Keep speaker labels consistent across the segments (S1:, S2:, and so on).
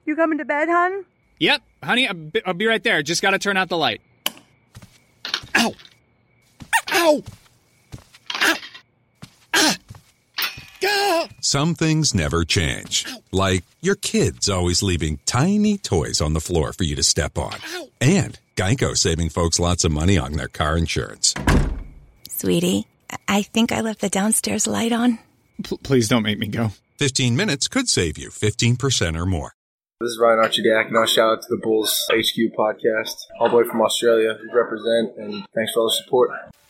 S1: You coming to bed, hon?
S2: Yep, honey, I'll be right there. Just gotta turn out the light. Ow! Ow! Ow! Ah! Ah!
S3: Some things never change. Like your kids always leaving tiny toys on the floor for you to step on. And Geico saving folks lots of money on their car insurance.
S4: Sweetie, I think I left the downstairs light on.
S2: Please don't make me go.
S3: 15 minutes could save you 15% or more.
S5: This is Ryan Archidiakonos. Shout out to the Bulls HQ podcast. All the way from Australia. We represent, and thanks for all the support.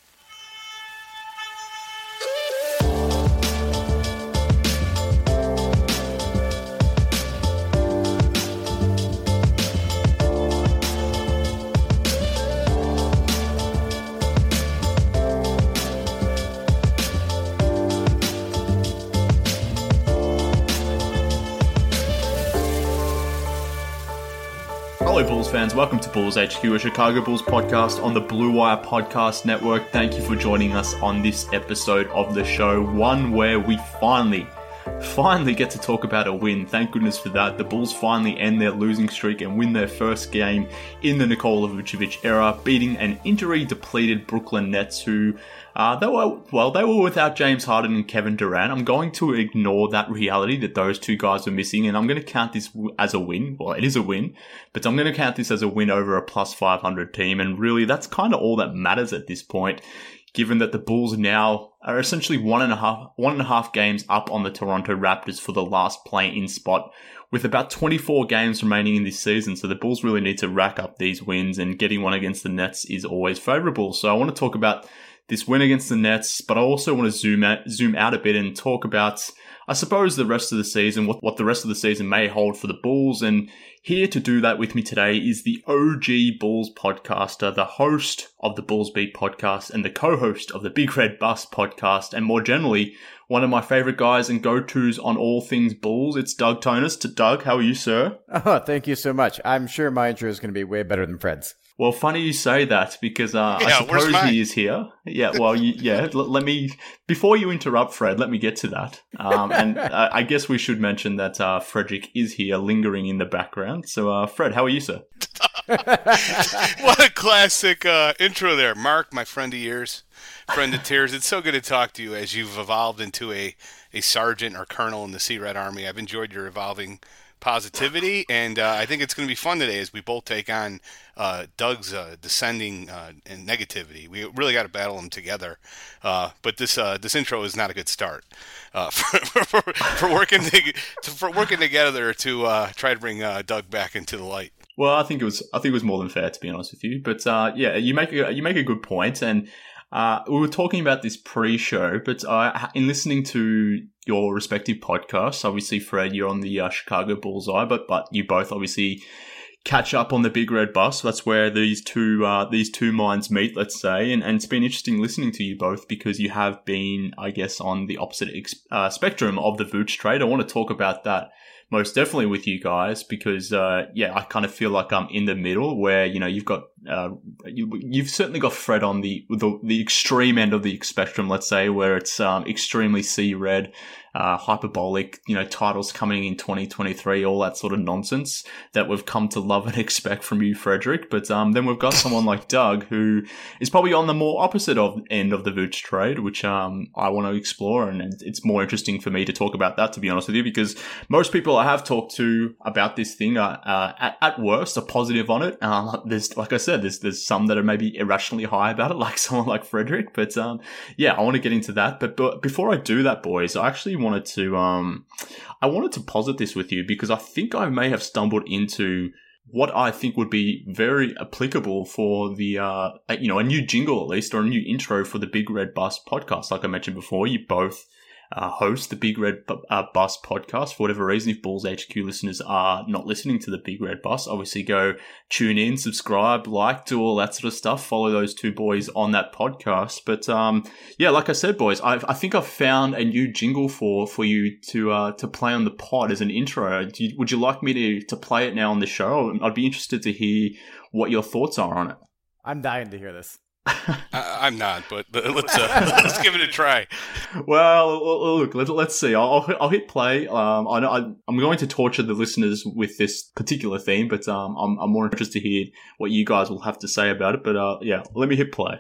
S6: Hello Bulls fans, welcome to Bulls HQ, a Chicago Bulls podcast on the Blue Wire Podcast Network. Thank you for joining us on this episode of the show, one where we finally get to talk about a win. Thank goodness for that. The Bulls finally end their losing streak and win their first game in the Nikola Vucevic era, beating an injury-depleted Brooklyn Nets who they were without James Harden and Kevin Durant. I'm going to ignore that reality that those two guys were missing, and I'm going to count this as a win. Well, it is a win, but I'm going to count this as a win over a plus 500 team, and really that's kind of all that matters at this point, given that the Bulls now are essentially one and a half games up on the Toronto Raptors for the last play-in spot, with about 24 games remaining in this season. So the Bulls really need to rack up these wins, and getting one against the Nets is always favorable. So I want to talk about this win against the Nets, but I also want to zoom out a bit and talk about, I suppose, the rest of the season, what the rest of the season may hold for the Bulls. And here to do that with me today is the OG Bulls podcaster, the host of the Bulls Beat podcast and the co-host of the Big Red Bus podcast, and more generally, one of my favorite guys and go-tos on all things Bulls. It's Doug Tonus. Doug, how are you, sir?
S7: Oh, thank you so much. I'm sure my intro is going to be way better than Fred's.
S6: Well, funny you say that, because I suppose he is here. Yeah, well, let me, before you interrupt, Fred, let me get to that. And I guess we should mention that Frederick is here, lingering in the background. So, Fred, how are you, sir?
S8: What a classic intro there. Mark, my friend of years, friend of tears. It's so good to talk to you as you've evolved into a sergeant or colonel in the Sea Red Army. I've enjoyed your evolving positivity, and I think it's going to be fun today as we both take on Doug's descending and negativity. We really got to battle them together, but this intro is not a good start for working together to try to bring Doug back into the light.
S6: Well, I think it was more than fair, to be honest with you. But yeah, you make a good point, and we were talking about this pre-show, but in listening to your respective podcasts, obviously, Fred, you're on the Chicago Bullseye, but you both obviously catch up on the Big Red Bus. That's where these two minds meet, let's say, and it's been interesting listening to you both because you have been, I guess, on the opposite spectrum of the Vooch trade. I want to talk about that most definitely with you guys because, I kind of feel like I'm in the middle where, you've got, you've certainly got Fred on the extreme end of the spectrum, let's say, where it's extremely C-red, hyperbolic, titles coming in 2023, all that sort of nonsense that we've come to love and expect from you, Frederick. But then we've got someone like Doug who is probably on the more opposite end of the Vooch trade, which I want to explore, and it's more interesting for me to talk about that, to be honest with you, because most people I have talked to about this thing are at worst are positive on it. There's, like I said, there's some that are maybe irrationally high about it, like someone like Frederick. But I want to get into that. But before I do that, boys, I actually wanted to posit this with you because I think I may have stumbled into what I think would be very applicable for the a new jingle at least, or a new intro for the Big Red Bus podcast. Like I mentioned before, you both host the Big Red Bus podcast. For whatever reason, if Bulls HQ listeners are not listening to the Big Red Bus, obviously go tune in, subscribe, like, do all that sort of stuff. Follow those two boys on that podcast. But like I said, boys, I think I've found a new jingle for you to play on the pod as an intro. Would you like me to play it now on the show? I'd be interested to hear what your thoughts are on it.
S7: I'm dying to hear this.
S8: I'm not, but let's give it a try.
S6: Well, look, let's see. I'll hit play. I know I'm going to torture the listeners with this particular theme, but I'm more interested to hear what you guys will have to say about it. But yeah, let me hit play.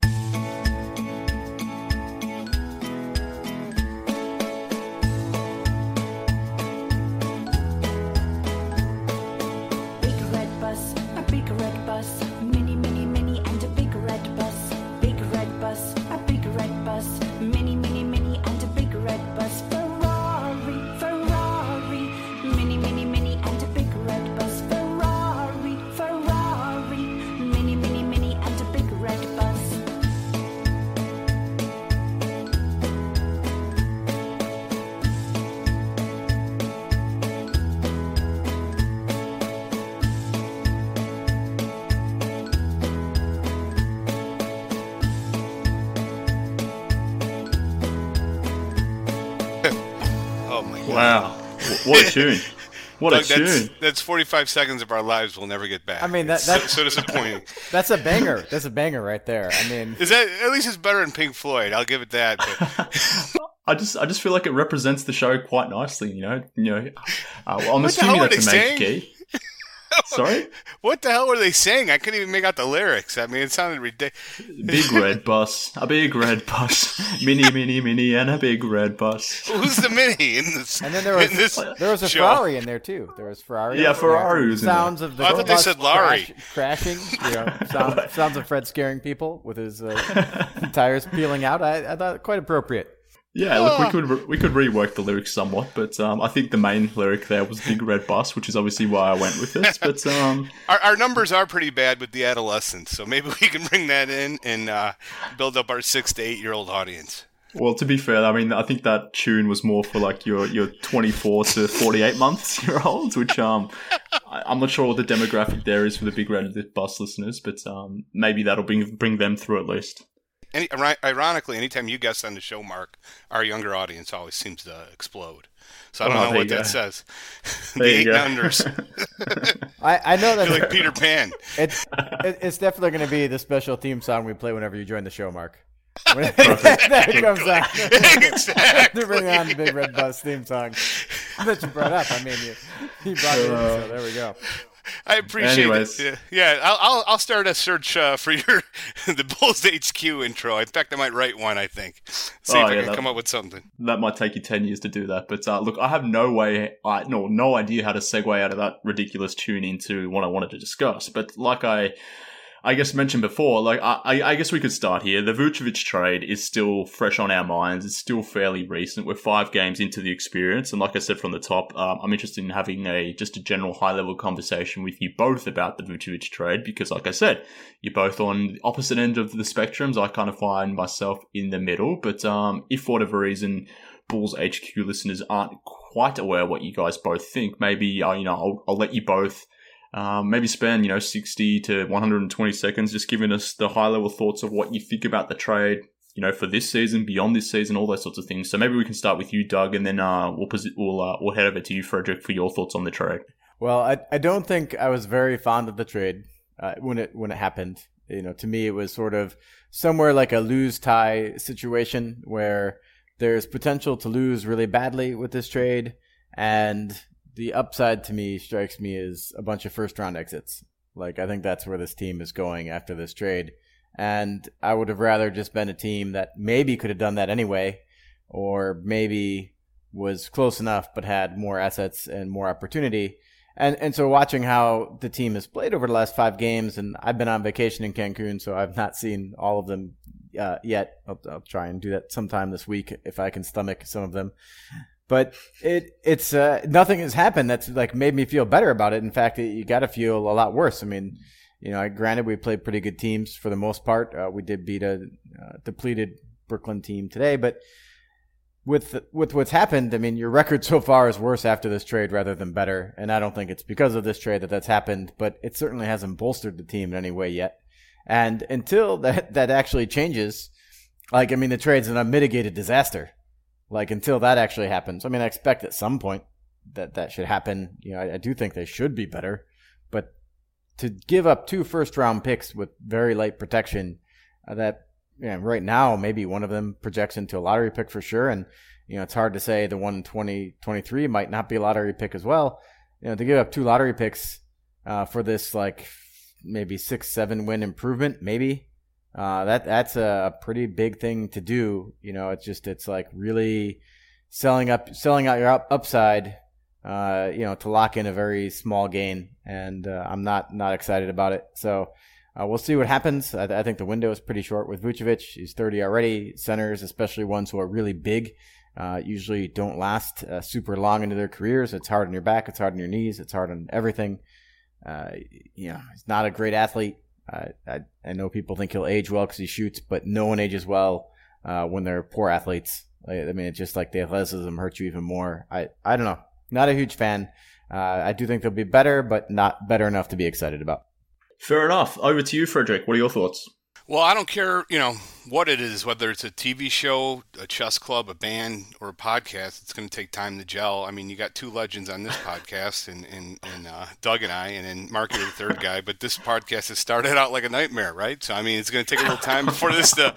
S6: Wow. What a tune. What
S8: Doug,
S6: a tune.
S8: That's 45 seconds of our lives we'll never get back.
S7: I mean,
S8: that's so disappointing.
S7: That's a banger. That's a banger right there. I mean,
S8: is that at least it's better than Pink Floyd? I'll give it that. But
S6: I just feel like it represents the show quite nicely. I'm
S8: What
S6: assuming
S8: the hell
S6: that's a
S8: were they
S6: major key. Sorry?
S8: What the hell were they saying? I couldn't even make out the lyrics. I mean, it sounded ridiculous.
S6: Big red bus, a big red bus, mini, and a big red bus.
S8: Who's the mini in this?
S7: And then there was a
S8: show?
S7: Ferrari in there too. There was Ferrari.
S6: Yeah, Ferrari was in
S7: sounds of the
S8: I thought they
S7: bus
S8: said Larry.
S7: crashing. Sounds of Fred scaring people with his tires peeling out. I thought it quite appropriate.
S6: Yeah, look, we could rework the lyrics somewhat, but I think the main lyric there was "Big Red Bus," which is obviously why I went with this. But
S8: our numbers are pretty bad with the adolescents, so maybe we can bring that in and build up our 6 to 8 year old audience.
S6: Well, to be fair, I mean, I think that tune was more for like your 24 to 48 year olds, which I'm not sure what the demographic there is for the Big Red Bus listeners, but maybe that'll bring them through at least.
S8: Ironically, anytime you guest on the show, Mark, our younger audience always seems to explode. So I don't know what that says. The 8-unders.
S7: I know that.
S8: You're like Peter Pan.
S7: It's definitely going to be the special theme song we play whenever you join the show, Mark. When that comes out.
S8: Exactly.
S7: To bring on the Big Red Bus theme song that you brought up. I mean, you brought it in, so there we go.
S8: I appreciate it. Yeah, I'll start a search for the Bulls HQ intro. In fact, I might write one, I think. See if I can come up with something.
S6: That might take you 10 years to do that. But look, I have no idea how to segue out of that ridiculous tune into what I wanted to discuss. But like I guess mentioned before, like I guess we could start here. The Vucevic trade is still fresh on our minds. It's still fairly recent. We're 5 games into the experience, and like I said from the top, I'm interested in having just a general high-level conversation with you both about the Vucevic trade because, like I said, you're both on the opposite end of the spectrums. I kind of find myself in the middle, but if for whatever reason Bulls HQ listeners aren't quite aware what you guys both think, maybe I'll let you both. Maybe spend 60 to 120 seconds just giving us the high level thoughts of what you think about the trade, for this season, beyond this season, all those sorts of things. So maybe we can start with you, Doug, and then we'll head over to you, Frederick, for your thoughts on the trade.
S7: Well, I don't think I was very fond of the trade when it happened. To me, it was sort of somewhere like a lose-tie situation where there's potential to lose really badly with this trade, and the upside to me strikes me as a bunch of first-round exits. Like, I think that's where this team is going after this trade. And I would have rather just been a team that maybe could have done that anyway, or maybe was close enough but had more assets and more opportunity. And so watching how the team has played over the last 5 games, and I've been on vacation in Cancun, so I've not seen all of them yet. I'll try and do that sometime this week if I can stomach some of them. But it's nothing has happened that's like made me feel better about it. In fact, you got to feel a lot worse. I mean, granted we played pretty good teams for the most part. We did beat a depleted Brooklyn team today, but with what's happened, I mean, your record so far is worse after this trade rather than better. And I don't think it's because of this trade that's happened, but it certainly hasn't bolstered the team in any way yet. And until that actually changes, like, I mean, the trade's an unmitigated disaster. Like, until that actually happens. I mean, I expect at some point that should happen. I do think they should be better. But to give up 2 first-round picks with very light protection that right now maybe one of them projects into a lottery pick for sure. And, it's hard to say the one in 2023 might not be a lottery pick as well. To give up 2 lottery picks for this like maybe 6-7 win improvement, maybe that's a pretty big thing to do. It's like really selling out your upside, to lock in a very small gain. And I'm not excited about it. So we'll see what happens. I think the window is pretty short with Vucevic. He's 30 already. Centers, especially ones who are really big, usually don't last super long into their careers. It's hard on your back. It's hard on your knees. It's hard on everything. He's not a great athlete. I know people think he'll age well because he shoots, but no one ages well when they're poor athletes. It's just like the athleticism hurts you even more. I don't know. Not a huge fan. I do think they'll be better, but not better enough to be excited about.
S6: Fair enough. Over to you, Frederick. What are your thoughts?
S8: Well, I don't care, what it is, whether it's a TV show, a chess club, a band, or a podcast. It's going to take time to gel. I mean, you got 2 legends on this podcast, and Doug and I, and then Mark, you're the third guy. But this podcast has started out like a nightmare, right? So I mean, it's going to take a little time for this to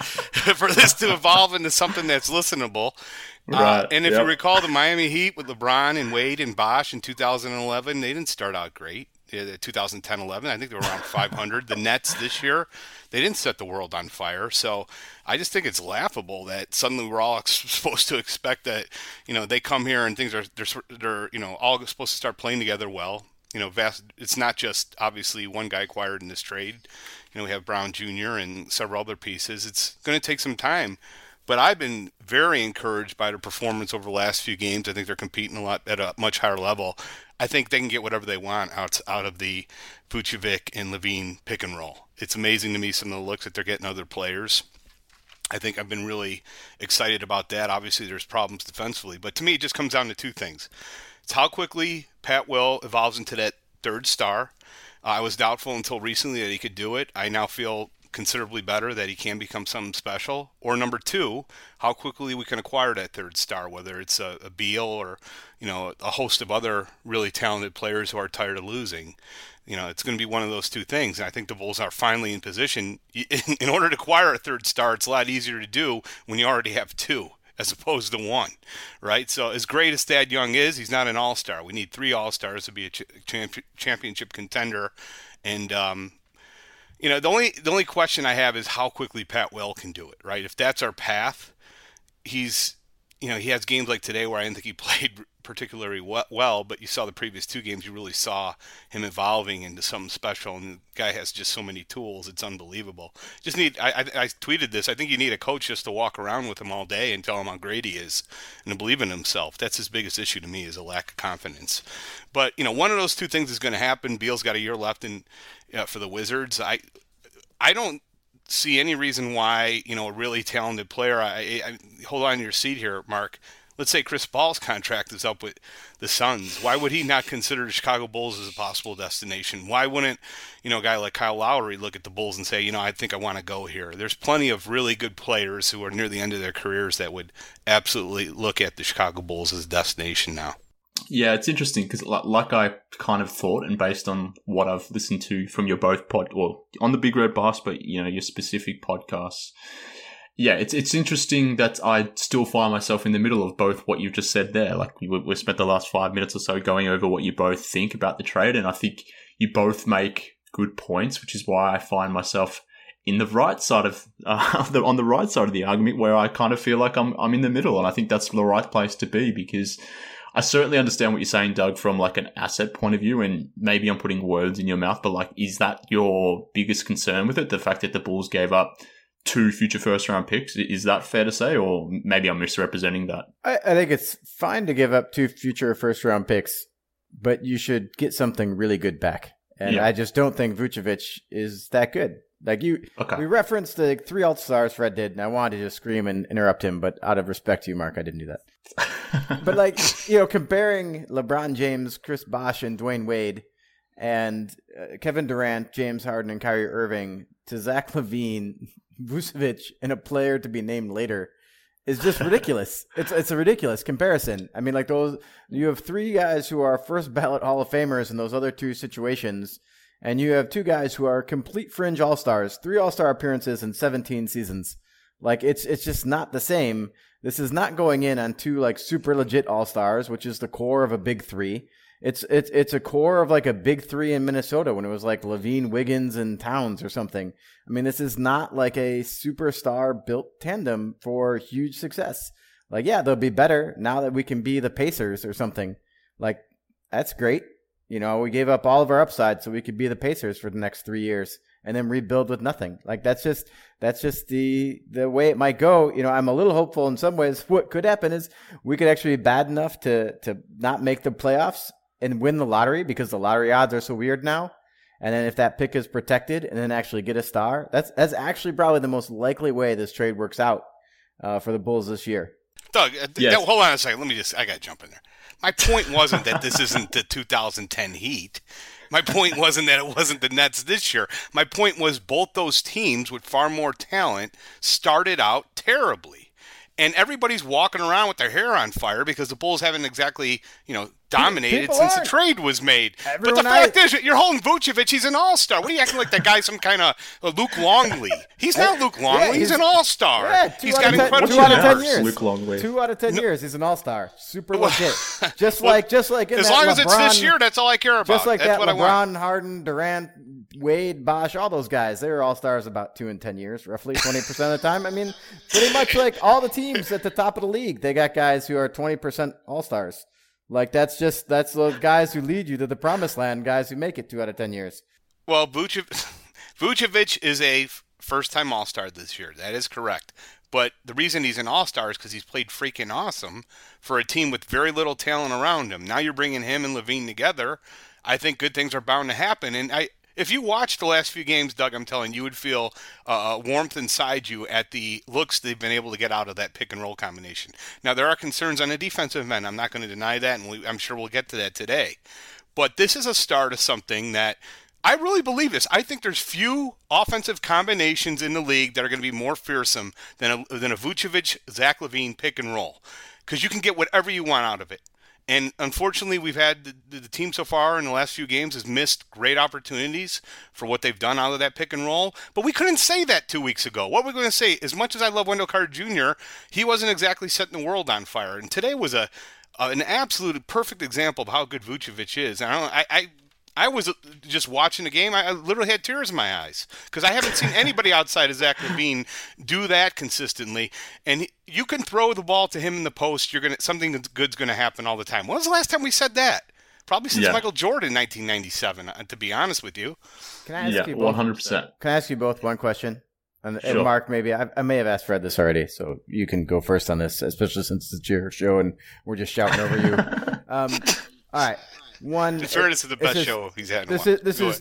S8: evolve into something that's listenable.
S6: Right.
S8: And if you recall, the Miami Heat with LeBron and Wade and Bosh in 2011, they didn't start out great. 2010-11, I think they were around 500. The Nets this year, they didn't set the world on fire. So I just think it's laughable that suddenly we're all supposed to expect that, they come here and things they're all supposed to start playing together well. It's not just obviously one guy acquired in this trade. We have Brown Jr. and several other pieces. It's going to take some time. But I've been very encouraged by their performance over the last few games. I think they're competing at a much higher level. I think they can get whatever they want out of the Vucevic and Levine pick and roll. It's amazing to me some of the looks that they're getting other players. I think I've been really excited about that. Obviously, there's problems defensively. But to me, it just comes down to 2 things. It's how quickly Pat Will evolves into that 3rd star. I was doubtful until recently that he could do it. I now feel considerably better that he can become something special. Or number 2, how quickly we can acquire that 3rd star, whether it's a Beal or a host of other really talented players who are tired of losing. It's going to be one of those 2 things. And I think the Bulls are finally in position. In order to acquire a 3rd star, it's a lot easier to do when you already have 2 as opposed to 1, right? So as great as Thad Young is, he's not an all-star. We need 3 all-stars to be a championship contender. And the only question I have is how quickly Pat Will can do it, right? If that's our path, he has games like today where I didn't think he played particularly well, but you saw the previous 2 games, you really saw him evolving into something special, and the guy has just so many tools, it's unbelievable. I tweeted this, I think you need a coach just to walk around with him all day and tell him how great he is and to believe in himself. That's his biggest issue to me, is a lack of confidence. But, one of those 2 things is going to happen. Beal's got a year left for the Wizards. I don't see any reason why, a really talented player, I hold on to your seat here, Mark. Let's say Chris Paul's contract is up with the Suns. Why would he not consider the Chicago Bulls as a possible destination? Why wouldn't, a guy like Kyle Lowry look at the Bulls and say, I think I want to go here? There's plenty of really good players who are near the end of their careers that would absolutely look at the Chicago Bulls as a destination now.
S6: Yeah, it's interesting because like I kind of thought, and based on what I've listened to from your both on the Big Red Bus, but your specific podcasts. Yeah, it's interesting that I still find myself in the middle of both what you've just said there. Like we spent the last 5 minutes or so going over what you both think about the trade, and I think you both make good points, which is why I find myself in the right side of on the right side of the argument, where I kind of feel like I'm in the middle, and I think that's the right place to be, because I certainly understand what you're saying, Doug, from like an asset point of view, and maybe I'm putting words in your mouth, but like, is that your biggest concern with it? The fact that the Bulls gave up 2 future first-round picks? Is that fair to say, or maybe I'm misrepresenting that? I
S7: think it's fine to give up 2 future first-round picks, but you should get something really good back. And I just don't think Vucevic is that good. Like we referenced the 3 All-Stars Fred did, and I wanted to just scream and interrupt him, but out of respect to you, Mark, I didn't do that. But like, comparing LeBron James, Chris Bosh, and Dwayne Wade, and Kevin Durant, James Harden, and Kyrie Irving to Zach LaVine, Vucevic, and a player to be named later is just ridiculous. It's a ridiculous comparison. I mean, like you have 3 guys who are first ballot Hall of Famers in those other 2 situations, and you have two guys who are complete fringe all-stars, 3 all-star appearances in 17 seasons. Like, it's just not the same. This is not going in on 2 like super legit all-stars, which is the core of a big 3. It's a core of like a big 3 in Minnesota when it was like Levine, Wiggins, and Towns or something. I mean, this is not like a superstar built tandem for huge success. Like, yeah, they'll be better now that we can be the Pacers or something. Like, that's great. You know, we gave up all of our upside so we could be the Pacers for the next 3 years and then rebuild with nothing. Like, that's just the way it might go. You know, I'm a little hopeful in some ways. What could happen is we could actually be bad enough to not make the playoffs and win the lottery because the lottery odds are so weird now. And then if that pick is protected and then actually get a star, that's actually probably the most likely way this trade works out for the Bulls this year.
S8: Doug, hold on a second. I got to jump in there. My point wasn't that this isn't the 2010 Heat. My point wasn't that it wasn't the Nets this year. My point was both those teams with far more talent started out terribly. And everybody's walking around with their hair on fire because the Bulls haven't exactly, dominated
S7: People
S8: since
S7: aren't.
S8: the trade was made.
S7: Everyone
S8: but the fact is, you're holding Vucevic. He's an all-star. What are you acting like that guy's some kind of Luke Longley? He's not Luke Longley.
S7: Yeah,
S8: he's an all-star.
S7: Yeah,
S8: he's got incredible
S7: 2 out of 10
S8: numbers.
S7: years.
S6: Luke Longley.
S7: 2 out of 10 years, he's an all-star. Super legit. Just like in
S8: as
S7: that
S8: long as it's this
S7: LeBron-
S8: year, that's all I care about.
S7: Just like
S8: that's
S7: that
S8: what I want.
S7: LeBron, Harden, Durant, Wade, Bosh, all those guys, they were all-stars about 2 and 10 years, roughly 20% of the time. I mean, pretty much like all the teams at the top of the league, they got guys who are 20% all-stars. Like, that's the guys who lead you to the promised land, guys who make it 2 out of 10 years.
S8: Well, Vucevic is a first-time all-star this year. That is correct. But the reason he's an all-star is because he's played freaking awesome for a team with very little talent around him. Now you're bringing him and Levine together. I think good things are bound to happen. And if you watch the last few games, Doug, I'm telling you would feel warmth inside you at the looks they've been able to get out of that pick-and-roll combination. Now, there are concerns on the defensive end. I'm not going to deny that, and I'm sure we'll get to that today. But this is a start of something that I really believe this. I think there's few offensive combinations in the league that are going to be more fearsome than a Vucevic, Zach LaVine pick-and-roll because you can get whatever you want out of it. And unfortunately, we've had the team so far in the last few games has missed great opportunities for what they've done out of that pick and roll. But we couldn't say that 2 weeks ago. What we're going to say, as much as I love Wendell Carter Jr., he wasn't exactly setting the world on fire. And today was an absolute perfect example of how good Vucevic is. And I was just watching the game. I literally had tears in my eyes because I haven't seen anybody outside of Zach LaVine do that consistently. And you can throw the ball to him in the post. Something good's going to happen all the time. When was the last time we said that? Probably since Michael Jordan, 1997. To be honest with you.
S7: Can I ask you both?
S6: 100%.
S7: Can I ask you both one question? And
S6: Sure.
S7: Mark, maybe I may have asked Fred this already, so you can go first on this, especially since it's your show and we're just shouting over you. All right. One.
S8: In fairness, it's the best show he's had in a while.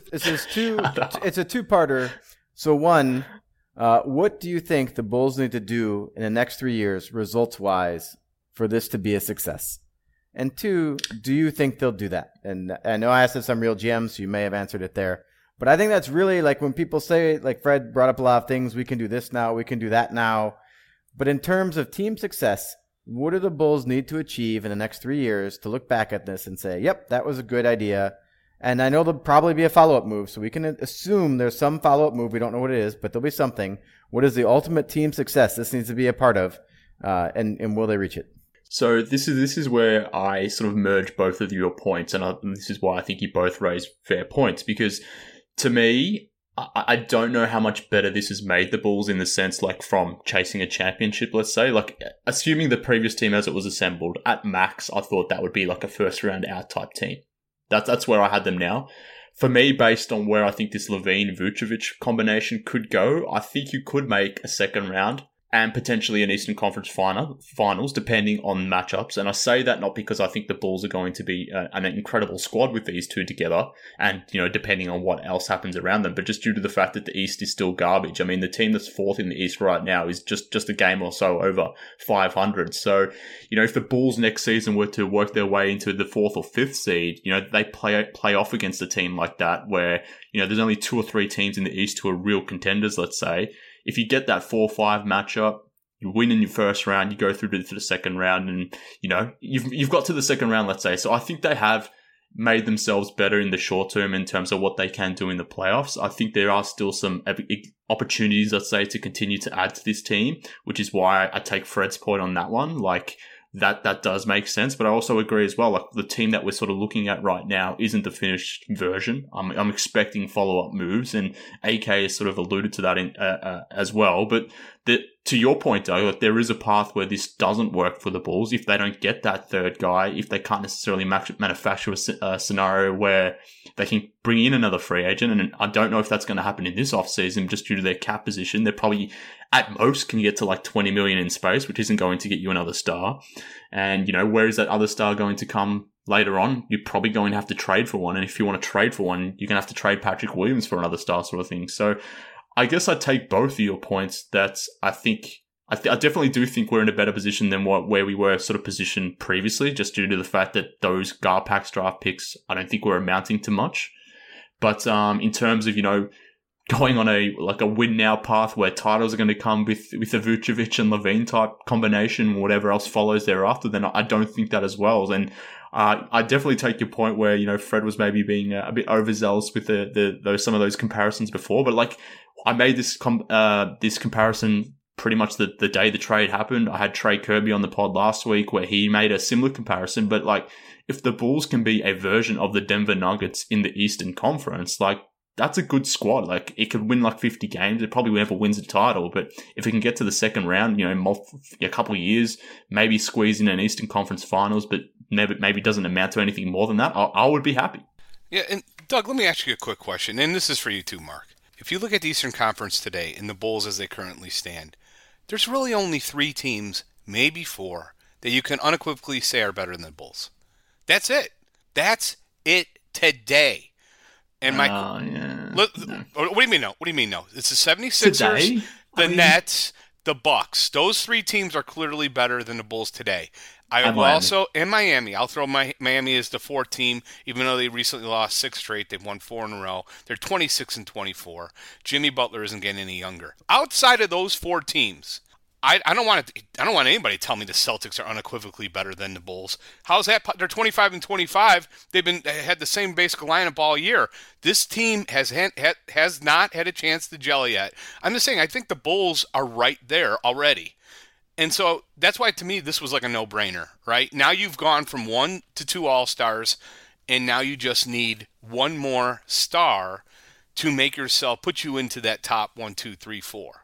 S7: It's a two-parter. So one, what do you think the Bulls need to do in the next 3 years, results-wise, for this to be a success? And two, do you think they'll do that? And I know I asked this on Real GM, so you may have answered it there. But I think that's really like when people say, like Fred brought up a lot of things, we can do this now, we can do that now. But in terms of team success, what do the Bulls need to achieve in the next 3 years to look back at this and say, yep, that was a good idea? And I know there'll probably be a follow-up move, so we can assume there's some follow-up move. We don't know what it is, but there'll be something. What is the ultimate team success this needs to be a part of, and will they reach it?
S6: So this is where I sort of merge both of your points, and this is why I think you both raise fair points, because to me, I don't know how much better this has made the Bulls in the sense, like, from chasing a championship, let's say. Like, assuming the previous team as it was assembled, at max, I thought that would be like a first-round out type team. That's where I had them now. For me, based on where I think this Levine-Vucevic combination could go, I think you could make a second round and potentially an Eastern Conference finals, depending on matchups. And I say that not because I think the Bulls are going to be an incredible squad with these two together, and depending on what else happens around them, but just due to the fact that the East is still garbage. I mean, the team that's fourth in the East right now is just a game or so over 500. So, if the Bulls next season were to work their way into the fourth or fifth seed, they play off against a team like that where there's only 2 or 3 teams in the East who are real contenders, let's say. If you get that 4-5 matchup, you win in your first round, you go through to the second round, and you've got to the second round, let's say. So I think they have made themselves better in the short term in terms of what they can do in the playoffs. I think there are still some opportunities, let's say, to continue to add to this team, which is why I take Fred's point on that one. Like, that does make sense, but I also agree as well. Like, the team that we're sort of looking at right now isn't the finished version. I'm expecting follow-up moves, and AK has sort of alluded to that as well. But to your point, though, like, there is a path where this doesn't work for the Bulls if they don't get that third guy, if they can't necessarily manufacture a scenario where they can bring in another free agent. And I don't know if that's going to happen in this offseason just due to their cap position. They're probably at most can get to like 20 million in space, which isn't going to get you another star. And, you know, where is that other star going to come later on? You're probably going to have to trade for one. And if you want to trade for one, you're going to have to trade Patrick Williams for another star sort of thing. So I guess I take both of your points that I definitely do think we're in a better position than where we were sort of positioned previously, just due to the fact that those Garpax draft picks, I don't think were amounting to much. But in terms of, you know, going on a win now path where titles are going to come with a Vucevic and Levine type combination, whatever else follows thereafter, then I don't think that as well. And I definitely take your point where, you know, Fred was maybe being a bit overzealous with some of those comparisons before, but like I made this comparison pretty much the day the trade happened. I had Trey Kirby on the pod last week where he made a similar comparison, but like if the Bulls can be a version of the Denver Nuggets in the Eastern Conference, like that's a good squad. Like it could win like 50 games. It probably never wins a title, but if it can get to the second round, you know, a couple of years, maybe squeeze in an Eastern Conference Finals, but maybe doesn't amount to anything more than that, I would be happy.
S8: Yeah, and Doug, let me ask you a quick question, and this is for you too, Mark. If you look at the Eastern Conference today and the Bulls as they currently stand, there's really only 3 teams, maybe 4, that you can unequivocally say are better than the Bulls. That's it. That's it today. And what do you mean no? What do you mean no? It's the 76ers, the Nets, the Bucks. Those 3 teams are clearly better than the Bulls today. Miami. I'll throw Miami as the 4th team, even though they recently lost 6 straight. They've won 4 in a row. They're 26-24. Jimmy Butler isn't getting any younger. Outside of those 4 teams, I don't want anybody to tell me the Celtics are unequivocally better than the Bulls. How's that? They're 25-25. They had the same basic lineup all year. This team has not had a chance to gel yet. I'm just saying, I think the Bulls are right there already. And so that's why, to me, this was like a no-brainer, right? Now you've gone from 1 to 2 All-Stars, and now you just need one more star to put you into that top 1, 2, 3, 4.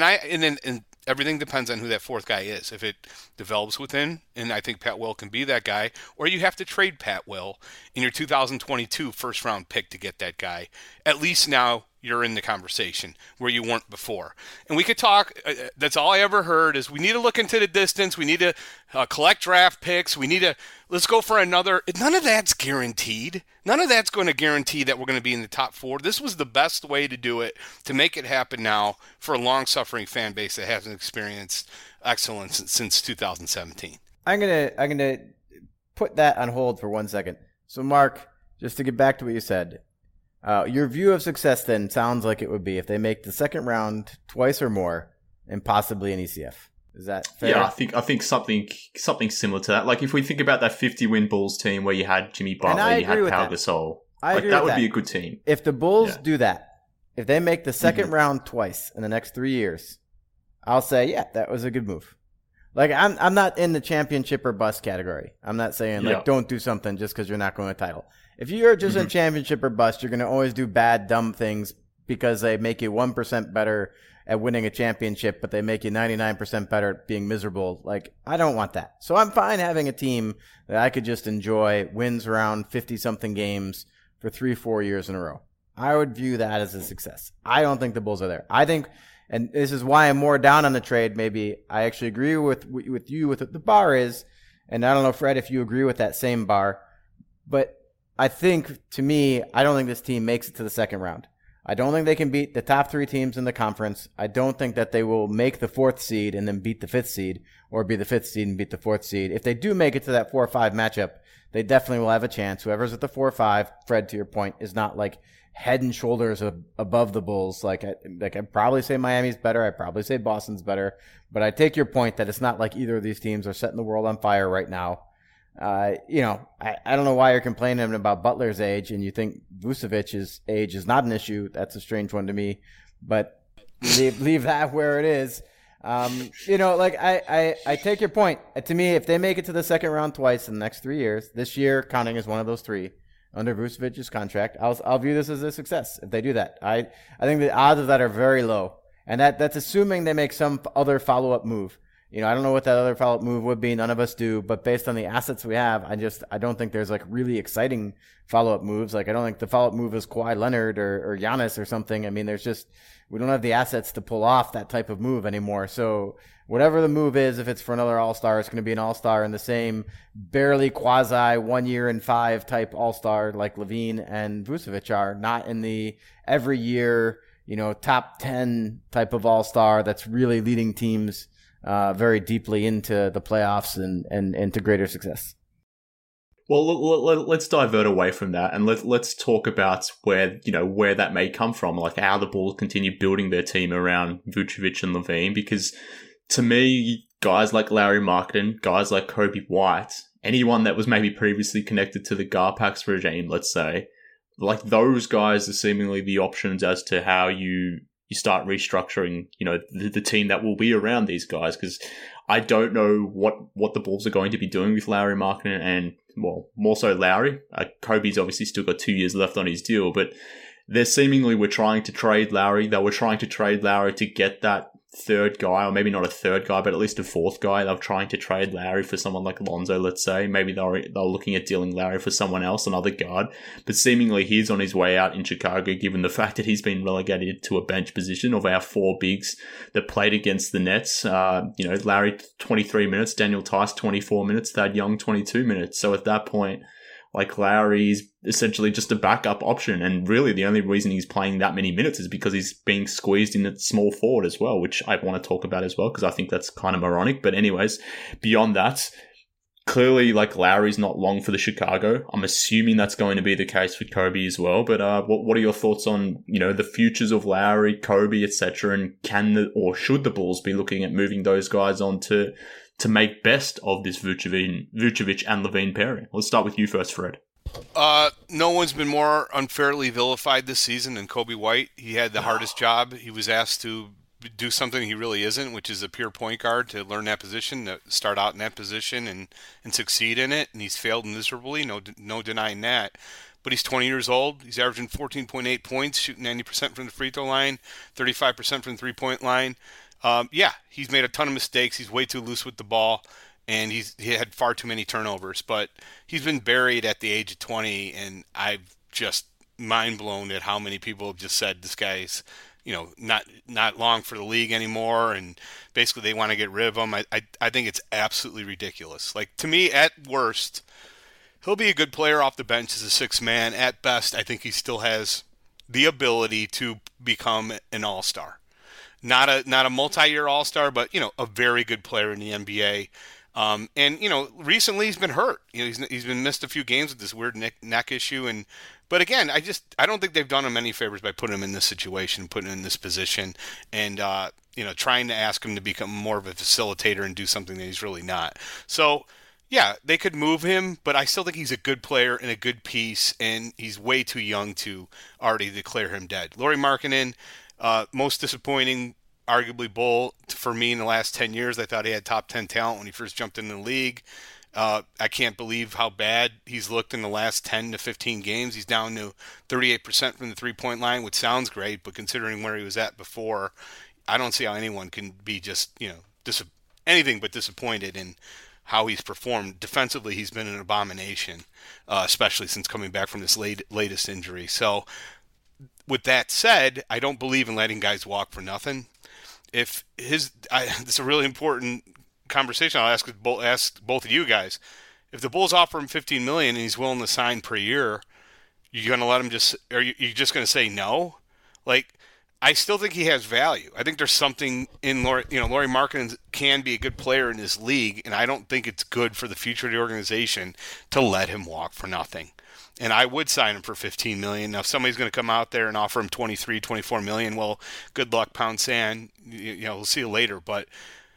S8: And everything depends on who that 4th guy is. If it develops within, and I think Pat Will can be that guy, or you have to trade Pat Will in your 2022 first-round pick to get that guy. At least now you're in the conversation where you weren't before. And we could talk, that's all I ever heard, is we need to look into the distance, we need to collect draft picks, let's go for another. None of that's guaranteed. None of that's going to guarantee that we're going to be in the top 4. This was the best way to do it, to make it happen now for a long-suffering fan base that hasn't experienced excellence since 2017.
S7: I'm gonna put that on hold for 1 second. So, Mark, just to get back to what you said, your view of success then sounds like it would be if they make the second round twice or more, and possibly an ECF. Is that fair?
S6: Yeah, I think something similar to that. Like if we think about that 50-win Bulls team where you had Jimmy Butler, you had Pau Gasol, that would be a good team.
S7: If the Bulls do that, if they make the second round twice in the next 3 years, I'll say, yeah, that was a good move. Like I'm not in the championship or bust category. I'm not saying don't do something just because you're not going to title. If you're just in championship or bust, you're going to always do bad, dumb things because they make you 1% better at winning a championship, but they make you 99% better at being miserable. Like, I don't want that. So I'm fine having a team that I could just enjoy, wins around 50-something games for 3-4 years in a row. I would view that as a success. I don't think the Bulls are there. I think, and this is why I'm more down on the trade, maybe I actually agree with you with what the bar is, and I don't know, Fred, if you agree with that same bar, but I think, to me, I don't think this team makes it to the second round. I don't think they can beat the top 3 teams in the conference. I don't think that they will make the 4th seed and then beat the 5th seed, or be the 5th seed and beat the 4th seed. If they do make it to that 4-5 matchup, they definitely will have a chance. Whoever's at the 4-5, Fred, to your point, is not like head and shoulders above the Bulls. I'd probably say Miami's better. I'd probably say Boston's better. But I take your point that it's not like either of these teams are setting the world on fire right now. I don't know why you're complaining about Butler's age and you think Vucevic's age is not an issue. That's a strange one to me, but leave that where it is. I take your point. To me, if they make it to the second round twice in the next 3 years, this year counting as one of those three under Vucevic's contract, I'll view this as a success if they do that. I think the odds of that are very low, and that's assuming they make some other follow-up move. I don't know what that other follow-up move would be. None of us do, but based on the assets we have, I don't think there's like really exciting follow-up moves. Like I don't think the follow-up move is Kawhi Leonard or Giannis or something. I mean, we don't have the assets to pull off that type of move anymore. So whatever the move is, if it's for another All-Star, it's going to be an All-Star in the same barely quasi 1 year and 5 type All-Star like LaVine and Vucevic are, not in the every year, top 10 type of All-Star that's really leading teams very deeply into the playoffs and into greater success.
S6: Well, let's divert away from that and let's talk about where that may come from, like how the Bulls continue building their team around Vucevic and LaVine. Because to me, guys like Lauri Markkanen, guys like Coby White, anyone that was maybe previously connected to the Garpax regime, let's say, like those guys are seemingly the options as to how you start restructuring, the team that will be around these guys. Because I don't know what the Bulls are going to be doing with Lauri Markkanen and, well, more so Lauri. Kobe's obviously still got 2 years left on his deal, but they seemingly were trying to trade Lauri. They were trying to trade Lauri to get that third guy, or maybe not a third guy, but at least a fourth guy. They were trying to trade Lauri for someone like Lonzo, let's say. Maybe they were looking at dealing Lauri for someone else, another guard. But seemingly he's on his way out in Chicago, given the fact that he's been relegated to a bench position. Of our 4 bigs that played against the Nets, Lauri 23 minutes, Daniel Tice 24 minutes, Thad Young 22 minutes. So at that point, like Lauri's essentially just a backup option, and really the only reason he's playing that many minutes is because he's being squeezed in at small forward as well, which I want to talk about as well because I think that's kind of moronic. But anyways, beyond that, clearly like Lauri's not long for the Chicago. I'm assuming that's going to be the case with Kobe as well. But what are your thoughts on the futures of Lauri, Kobe, etc., and should the Bulls be looking at moving those guys on to make best of this Vucevic and LaVine pairing? Let's start with you first, Fred.
S8: No one's been more unfairly vilified this season than Coby White. He had the hardest job. He was asked to do something he really isn't, which is a pure point guard, to learn that position, to start out in that position and succeed in it. And he's failed miserably, no denying that. But he's 20 years old. He's averaging 14.8 points, shooting 90% from the free throw line, 35% from the three-point line. He's made a ton of mistakes. He's way too loose with the ball, and he had far too many turnovers. But he's been buried at the age of 20, and I've just mind blown at how many people have just said this guy's, not long for the league anymore, and basically they want to get rid of him. I think it's absolutely ridiculous. Like, to me, at worst, he'll be a good player off the bench as a sixth man. At best, I think he still has the ability to become an all-star. Not a multi-year all-star, but, a very good player in the NBA. Recently he's been hurt. He's been missed a few games with this weird neck issue. But again, I don't think they've done him any favors by putting him in this situation, putting him in this position, and, trying to ask him to become more of a facilitator and do something that he's really not. So, yeah, they could move him, but I still think he's a good player and a good piece, and he's way too young to already declare him dead. Lauri Markkanen, most disappointing, arguably, Bull for me in the last 10 years. I thought he had top 10 talent when he first jumped into the league. I can't believe how bad he's looked in the last 10 to 15 games. He's down to 38% from the three-point line, which sounds great, but considering where he was at before, I don't see how anyone can be just, anything but disappointed in how he's performed. Defensively, he's been an abomination, especially since coming back from this latest injury. So, with that said, I don't believe in letting guys walk for nothing. It's a really important conversation. I'll ask both of you guys. If the Bulls offer him $15 million and he's willing to sign per year, you're going to let him are you just going to say no? Like, I still think he has value. I think there's something in Lauri Markkanen can be a good player in this league, and I don't think it's good for the future of the organization to let him walk for nothing. And I would sign him for $15 million. Now, if somebody's going to come out there and offer him $23, $24 million, well, good luck, pound sand. We'll see you later. But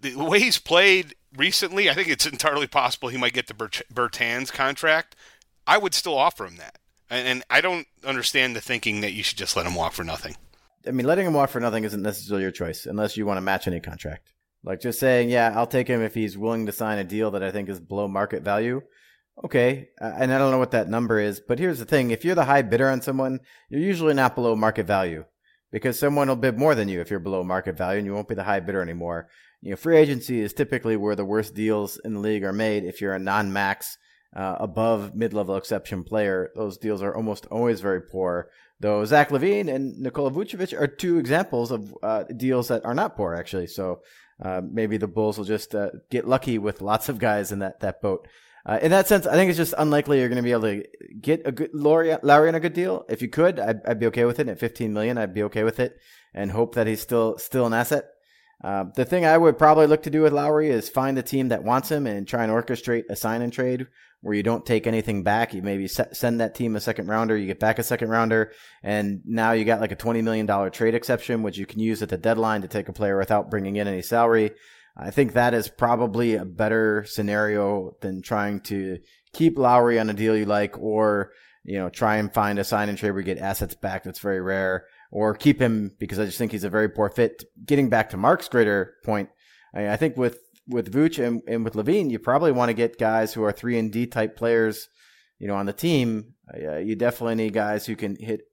S8: the way he's played recently, I think it's entirely possible he might get the Bertans contract. I would still offer him that. And I don't understand the thinking that you should just let him walk for nothing.
S7: I mean, letting him walk for nothing isn't necessarily your choice unless you want to match any contract. Like just saying, yeah, I'll take him if he's willing to sign a deal that I think is below market value. Okay, and I don't know what that number is, but here's the thing. If you're the high bidder on someone, you're usually not below market value because someone will bid more than you if you're below market value and you won't be the high bidder anymore. You know, free agency is typically where the worst deals in the league are made. If you're a non-max, above mid-level exception player, those deals are almost always very poor. Though Zach LaVine and Nikola Vucevic are two examples of deals that are not poor, actually. So maybe the Bulls will just get lucky with lots of guys in that boat. In that sense, I think it's just unlikely you're going to be able to get a good Lowry on a good deal. If you could, I'd be okay with it. At $15 million, I'd be okay with it, and hope that he's still an asset. The thing I would probably look to do with Lowry is find a team that wants him and try and orchestrate a sign and trade where you don't take anything back. You maybe send that team a second rounder, you get back a second rounder, and now you got like a $20 million trade exception, which you can use at the deadline to take a player without bringing in any salary. I think that is probably a better scenario than trying to keep Lowry on a deal you like, or, you know, try and find a sign and trade where you get assets back. That's very rare, or keep him because I just think he's a very poor fit. Getting back to Mark's greater point, I think with Vooch and with LaVine, you probably want to get guys who are 3-and-D type players, you know, on the team. You definitely need guys who can hit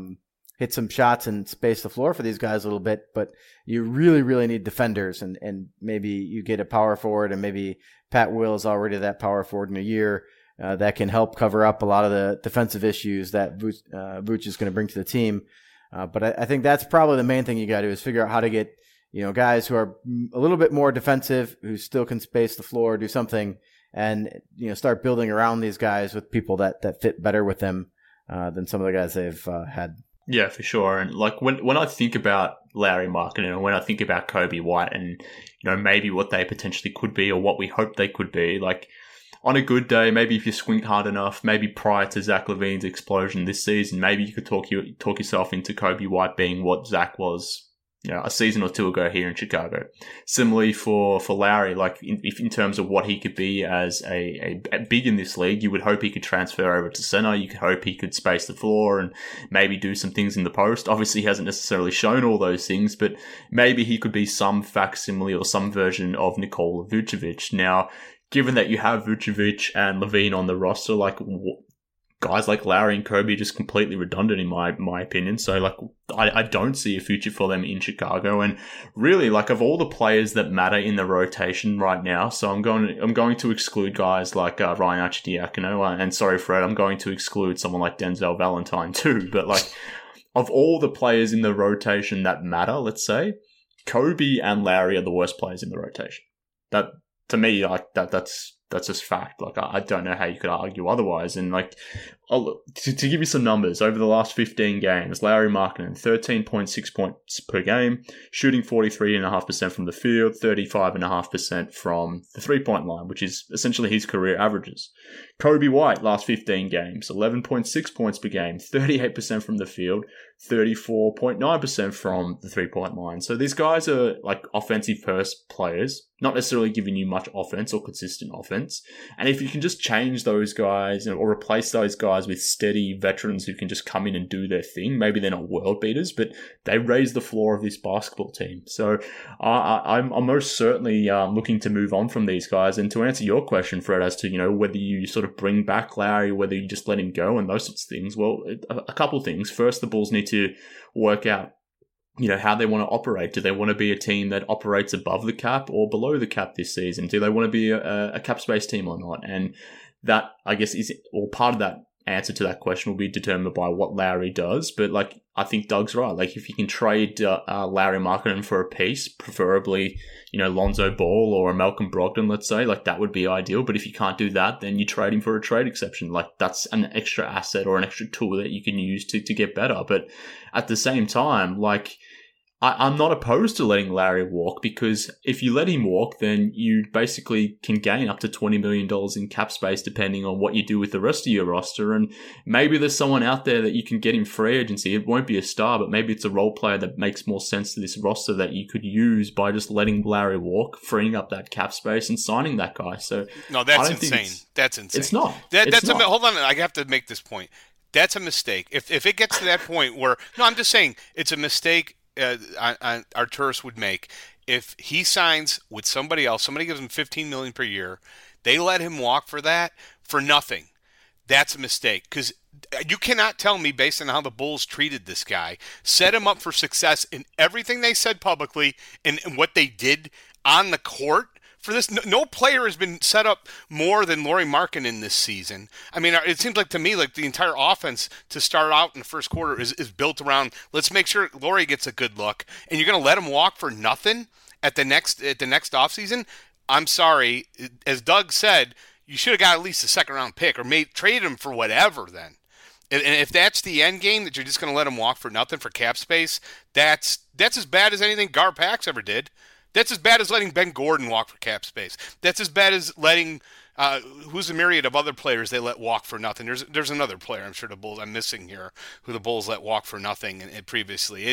S7: some shots and space the floor for these guys a little bit, but you really, really need defenders, and maybe you get a power forward, and maybe Pat Will is already that power forward in a year that can help cover up a lot of the defensive issues that Vooch is going to bring to the team. But I think that's probably the main thing you got to do is figure out how to get, you know, guys who are a little bit more defensive, who still can space the floor, do something, and, you know, start building around these guys with people that fit better with them than some of the guys they've had.
S6: Yeah, for sure. And like when I think about Lauri Markkanen, and when I think about Coby White and, you know, maybe what they potentially could be or what we hope they could be, like on a good day, maybe if you squint hard enough, maybe prior to Zach LaVine's explosion this season, maybe you could talk yourself into Coby White being what Zach was, you know, a season or two ago here in Chicago. Similarly for Lauri, like in terms of what he could be as a big in this league, you would hope he could transfer over to center. You could hope he could space the floor and maybe do some things in the post. Obviously, he hasn't necessarily shown all those things, but maybe he could be some facsimile or some version of Nikola Vucevic. Now, given that you have Vucevic and LaVine on the roster, like guys like Lauri and Coby are just completely redundant in my opinion. So like I don't see a future for them in Chicago. And really, like of all the players that matter in the rotation right now, so I'm going to exclude guys like Ryan Arcidiacono, and sorry Fred, I'm going to exclude someone like Denzel Valentine too. But like of all the players in the rotation that matter, let's say Coby and Lauri are the worst players in the rotation. That to me, like that's just fact. Like, I don't know how you could argue otherwise. And like, to give you some numbers, over the last 15 games, Lauri Markkanen, 13.6 points per game, shooting 43.5% from the field, 35.5% from the 3-point line, which is essentially his career averages. Coby White, last 15 games, 11.6 points per game, 38% from the field, 34.9% from the 3-point line. So these guys are like offensive first players, not necessarily giving you much offense or consistent offense. And if you can just change those guys or replace those guys with steady veterans who can just come in and do their thing, maybe they're not world beaters, but they raise the floor of this basketball team. So I'm most certainly looking to move on from these guys. And to answer your question, Fred, as to, you know, whether you sort of bring back Lauri, whether you just let him go and those sorts of things, well, a couple of things. First, the Bulls need to work out, you know, how they want to operate. Do they want to be a team that operates above the cap or below the cap this season? Do they want to be a cap space team or not? And that, I guess, part of that answer to that question will be determined by what Lauri does. But like, I think Doug's right. Like, if you can trade Lauri Markkanen for a piece, preferably, you know, Lonzo Ball or a Malcolm Brogdon, let's say, like that would be ideal. But if you can't do that, then you trade him for a trade exception. Like, that's an extra asset or an extra tool that you can use to get better. But at the same time, like, I'm not opposed to letting Larry walk, because if you let him walk, then you basically can gain up to $20 million in cap space depending on what you do with the rest of your roster. And maybe there's someone out there that you can get in free agency. It won't be a star, but maybe it's a role player that makes more sense to this roster that you could use by just letting Larry walk, freeing up that cap space and signing that guy. So
S8: no, that's insane. That's insane.
S6: It's not.
S8: Hold on. I have to make this point. That's a mistake. If it gets to that point where, no, I'm just saying it's a mistake Arturas would make if he signs with somebody else. Somebody gives him $15 million per year. They let him walk for that for nothing. That's a mistake, because you cannot tell me, based on how the Bulls treated this guy, set him up for success in everything they said publicly and what they did on the court. For this, no player has been set up more than Lauri Markkanen this season. I mean, it seems like to me like the entire offense to start out in the first quarter is built around, let's make sure Lauri gets a good look, and you're going to let him walk for nothing at the next offseason? I'm sorry. As Doug said, you should have got at least a second-round pick or trade him for whatever then. And if that's the end game, that you're just going to let him walk for nothing for cap space, that's as bad as anything Gar Pax ever did. That's as bad as letting Ben Gordon walk for cap space. That's as bad as letting who's a myriad of other players they let walk for nothing. There's another player I'm sure the Bulls I'm missing here who the Bulls let walk for nothing and previously.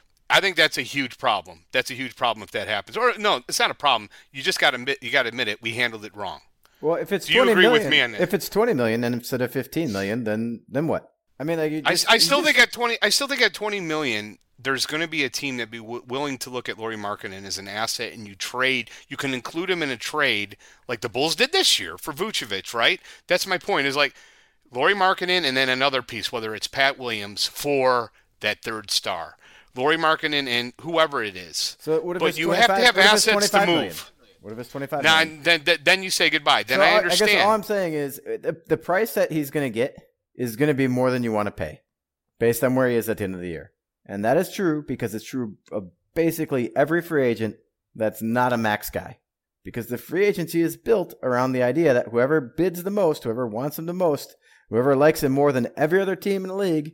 S8: I think that's a huge problem. That's a huge problem if that happens. Or no, it's not a problem. You just got to admit it. We handled it wrong.
S7: Well, if it's
S8: Do you
S7: 20
S8: agree
S7: million,
S8: with me on that?
S7: If it's $20 million and instead of $15 million, then what? I mean, like
S8: I still think at $20 million, there's going to be a team that'd be willing to look at Lauri Markkanen as an asset, and you can include him in a trade like the Bulls did this year for Vucevic, right? That's my point. Is like Lauri Markkanen and then another piece, whether it's Pat Williams for that third star, Lauri Markkanen and whoever it is.
S7: So what if
S8: but
S7: it's
S8: you have to have assets to
S7: million?
S8: move.
S7: What if it's $25
S8: Now,
S7: million?
S8: then you say goodbye. Then
S7: So
S8: I understand.
S7: I guess all I'm saying is the price that he's going to get is going to be more than you want to pay based on where he is at the end of the year. And that is true because it's true of basically every free agent that's not a max guy. Because the free agency is built around the idea that whoever bids the most, whoever wants him the most, whoever likes him more than every other team in the league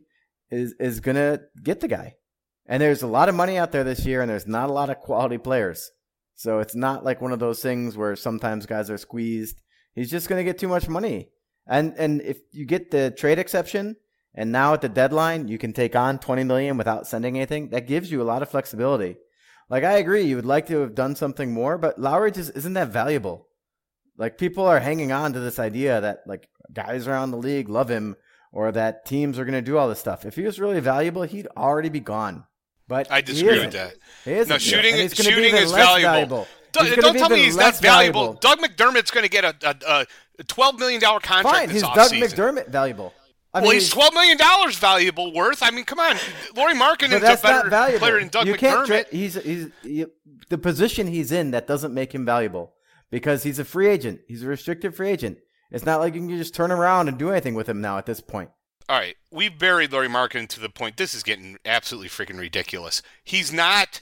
S7: is going to get the guy. And there's a lot of money out there this year, and there's not a lot of quality players. So it's not like one of those things where sometimes guys are squeezed. He's just going to get too much money. And if you get the trade exception, and now at the deadline, you can take on $20 million without sending anything, that gives you a lot of flexibility. Like, I agree, you would like to have done something more, but Lowry just isn't that valuable. Like, people are hanging on to this idea that, like, guys around the league love him or that teams are going to do all this stuff. If he was really valuable, he'd already be gone. But
S8: I disagree with that.
S7: He isn't.
S8: No, shooting is
S7: valuable.
S8: Don't tell me he's not valuable. Doug McDermott's going to get a $12 million contract
S7: Fine,
S8: this
S7: he's
S8: offseason.
S7: Doug McDermott valuable.
S8: He's $12 million valuable worth. I mean, come on. Lauri Markkanen's a better player than Doug McDermott.
S7: He's the position he's in that doesn't make him valuable because he's a free agent. He's a restricted free agent. It's not like you can just turn around and do anything with him now at this point.
S8: All right, we've buried Lauri Markkanen to the point. This is getting absolutely freaking ridiculous. He's not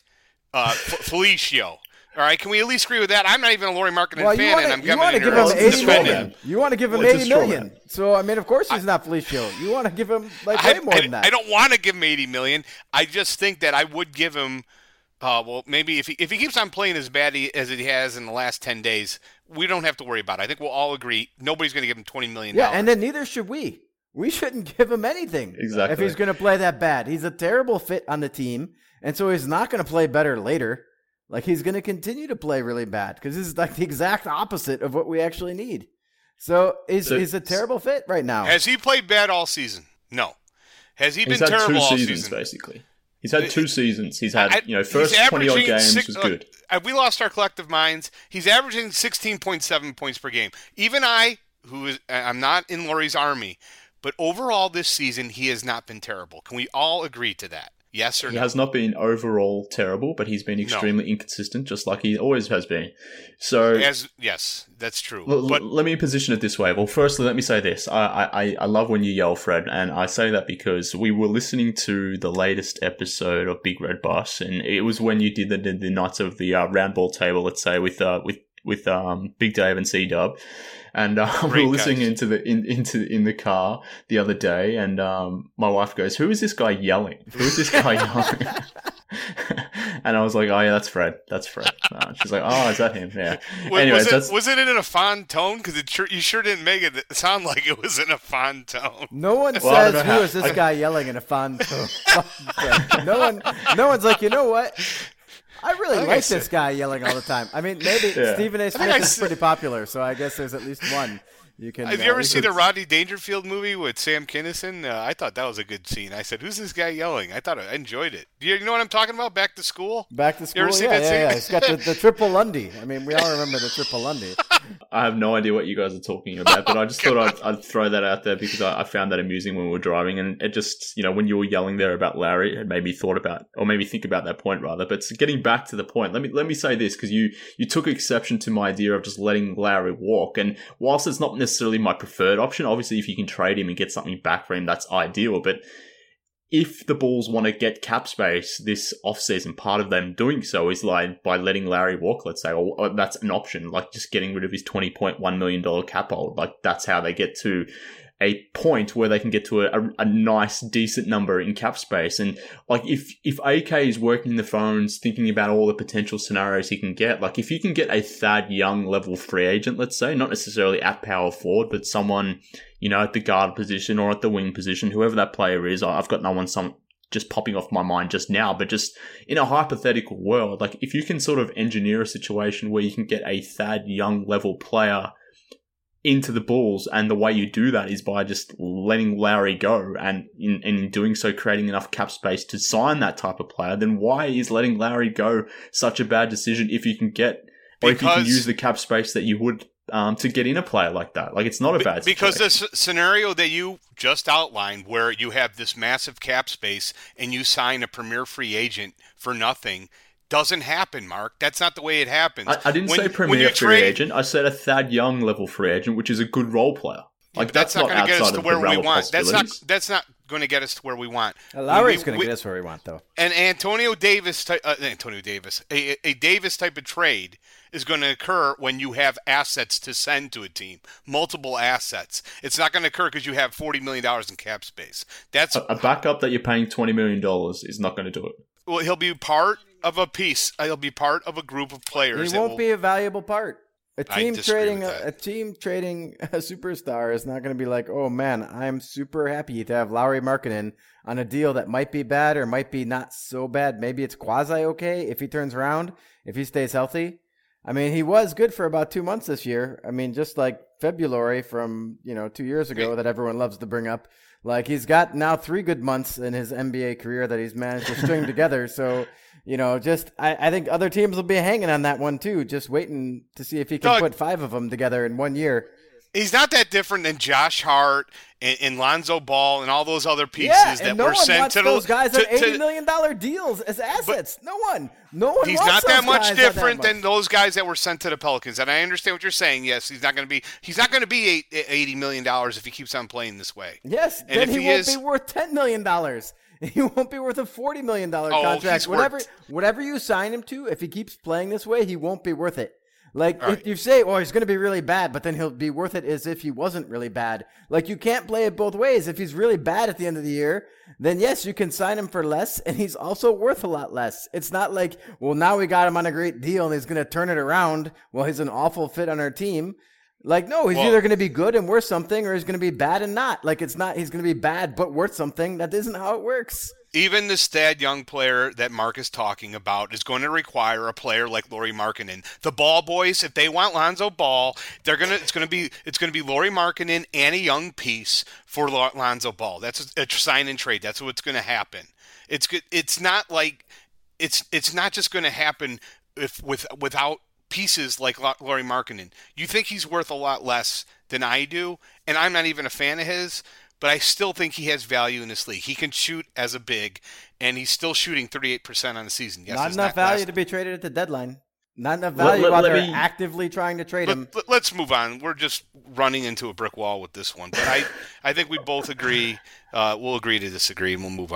S8: Felicio. All right, can we at least agree with that? I'm not even a Lauri Markkanen fan, and I'm coming in here to defend him.
S7: You want to give him $80 million. So, I mean, of course he's not Felicio. You want to give him way more than that.
S8: I don't want to give him $80 million. I just think that I would give him, maybe if he keeps on playing as bad as he has in the last 10 days, we don't have to worry about it. I think we'll all agree nobody's going to give him $20 million.
S7: Yeah, and then neither should we. We shouldn't give him anything if he's going to play that bad. He's a terrible fit on the team, and so he's not going to play better later. Like, he's going to continue to play really bad because this is like the exact opposite of what we actually need. So he's a terrible fit right now.
S8: Has he played bad all season? No. Has he been terrible all season?
S6: He's had 2 seasons, basically. He's had 2 seasons. He's had, first 20-odd games was good.
S8: We lost our collective minds. He's averaging 16.7 points per game. Even I'm not in Lauri's army, but overall this season, he has not been terrible. Can we all agree to that? Yes or no?
S6: He has not been overall terrible, but he's been extremely inconsistent, just like he always has been. So,
S8: yes, that's true.
S6: Let me position it this way. Well, firstly, let me say this. I love when you yell, Fred, and I say that because we were listening to the latest episode of Big Red Bus, and it was when you did the Knights of the round ball table, let's say, with Big Dave and C-Dub. And we were listening into the car the other day, and my wife goes, "Who is this guy yelling? Who is this guy yelling?" And I was like, oh yeah, that's Fred. That's Fred. She's like, oh, is that him? Yeah.
S8: Was it in a fond tone? Because you sure didn't make it sound like it was in a fond tone.
S7: No one says, who is this guy yelling in a fond tone? No one's like, you know what? I really like this guy yelling all the time. I mean, maybe Stephen A. Smith is pretty popular, so I guess there's at least one.
S8: Have you ever seen the Rodney Dangerfield movie with Sam Kinison? I thought that was a good scene. I said, "Who's this guy yelling?" I enjoyed it. You know what I'm talking about? Back to School.
S7: Back to School.
S8: You ever seen that scene?
S7: Yeah. It's got the triple Lundy. I mean, we all remember the triple Lundy.
S6: I have no idea what you guys are talking about, but I just thought I'd throw that out there because I found that amusing when we were driving, and it just, when you were yelling there about Larry, it made me think about that point rather. But getting back to the point, let me say this, because you took exception to my idea of just letting Larry walk, and whilst it's not necessarily my preferred option, obviously if you can trade him and get something back for him, that's ideal. But if the Bulls want to get cap space this offseason, part of them doing so is like by letting Larry walk, let's say, or that's an option, like just getting rid of his $20.1 million cap hold. Like that's how they get to a point where they can get to a nice, decent number in cap space. And like if AK is working the phones, thinking about all the potential scenarios he can get, like if you can get a Thad Young level free agent, let's say, not necessarily at power forward, but someone, at the guard position or at the wing position, whoever that player is, I've got no one just popping off my mind just now, but just in a hypothetical world, like if you can sort of engineer a situation where you can get a Thad Young level player into the Bulls, and the way you do that is by just letting Larry go, and in doing so creating enough cap space to sign that type of player, then why is letting Larry go such a bad decision if you can use the cap space that you would to get in a player like that? Like, it's not a bad situation.
S8: Because the scenario that you just outlined, where you have this massive cap space and you sign a premier free agent for nothing, doesn't happen, Mark. That's not the way it happens.
S6: I didn't say premier free agent. I said a Thad Young level free agent, which is a good role player. Like
S8: that's not going to get us to where we want. That's not going to get us to where we want.
S7: Lowry's going to get us where we want, though.
S8: And a Davis type of trade is going to occur when you have assets to send to a team, multiple assets. It's not going to occur because you have $40 million in cap space. That's
S6: a backup that you're paying $20 million is not going to do it.
S8: Well, he'll be part of a piece. He'll be part of a group of players.
S7: He won't be a valuable part. A team trading a superstar is not going to be like, oh man, I'm super happy to have Lauri Markkanen on a deal that might be bad or might be not so bad. Maybe it's quasi okay if he turns around, if he stays healthy. I mean, he was good for about 2 months this year. I mean, just like February from 2 years ago that everyone loves to bring up. Like, he's got now 3 good months in his NBA career that he's managed to string together. So, I think other teams will be hanging on that one too, just waiting to see if he can put 5 of them together in 1 year.
S8: He's not that different than Josh Hart and Lonzo Ball and all those other pieces that were sent to
S7: those guys on $80 million deals as assets. No one.
S8: He's not that much different than those guys that were sent to the Pelicans. And I understand what you're saying. Yes, he's not going to be $80 million if he keeps on playing this way.
S7: Yes, and then he won't be worth $10 million. He won't be worth a $40 million contract. Whatever you sign him to, if he keeps playing this way, he won't be worth it. Like, if you say, he's going to be really bad, but then he'll be worth it as if he wasn't really bad. Like, you can't play it both ways. If he's really bad at the end of the year, then yes, you can sign him for less, and he's also worth a lot less. It's not like, well, now we got him on a great deal, and he's going to turn it around while he's an awful fit on our team. Like, no, he's either going to be good and worth something, or he's going to be bad and not. Like, it's not, he's going to be bad but worth something. That isn't how it works.
S8: Even the Thad Young player that Mark is talking about is going to require a player like Lauri Markkanen. The Ball boys, if they want Lonzo Ball, it's going to be Lauri Markkanen and a young piece for Lonzo Ball. That's a sign and trade. That's what's going to happen. It's good. It's not like it's not just going to happen without pieces like Lauri Markkanen. You think he's worth a lot less than I do, and I'm not even a fan of his. But I still think he has value in this league. He can shoot as a big, and he's still shooting 38% on the season. Yes,
S7: not enough value to be traded at the deadline. Not enough value while they're actively trying to trade him.
S8: Let's move on. We're just running into a brick wall with this one. But I think we both agree. We'll agree to disagree, and we'll move on.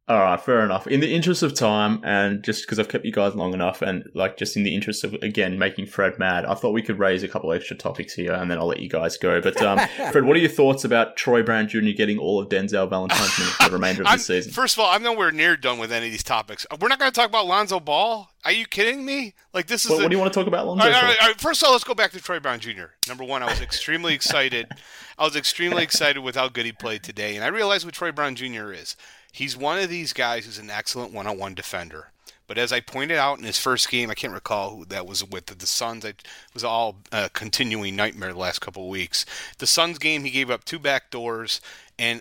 S6: All right, fair enough. In the interest of time, and just because I've kept you guys long enough, and like just in the interest of, again, making Fred mad, I thought we could raise a couple extra topics here, and then I'll let you guys go. But Fred, what are your thoughts about Troy Brown Jr. getting all of Denzel Valentine's minutes for the remainder of the season?
S8: First of all, I'm nowhere near done with any of these topics. We're not going to talk about Lonzo Ball. Are you kidding me? Like this is.
S6: What do you want to talk about, Lonzo?
S8: All right. First of all, let's go back to Troy Brown Jr. Number one, I was extremely excited. With how good he played today, and I realized what Troy Brown Jr. is. He's one of these guys who's an excellent one-on-one defender. But as I pointed out in his first game, I can't recall who that was with, the Suns. It was all a continuing nightmare the last couple of weeks. The Suns game, he gave up 2 backdoors, and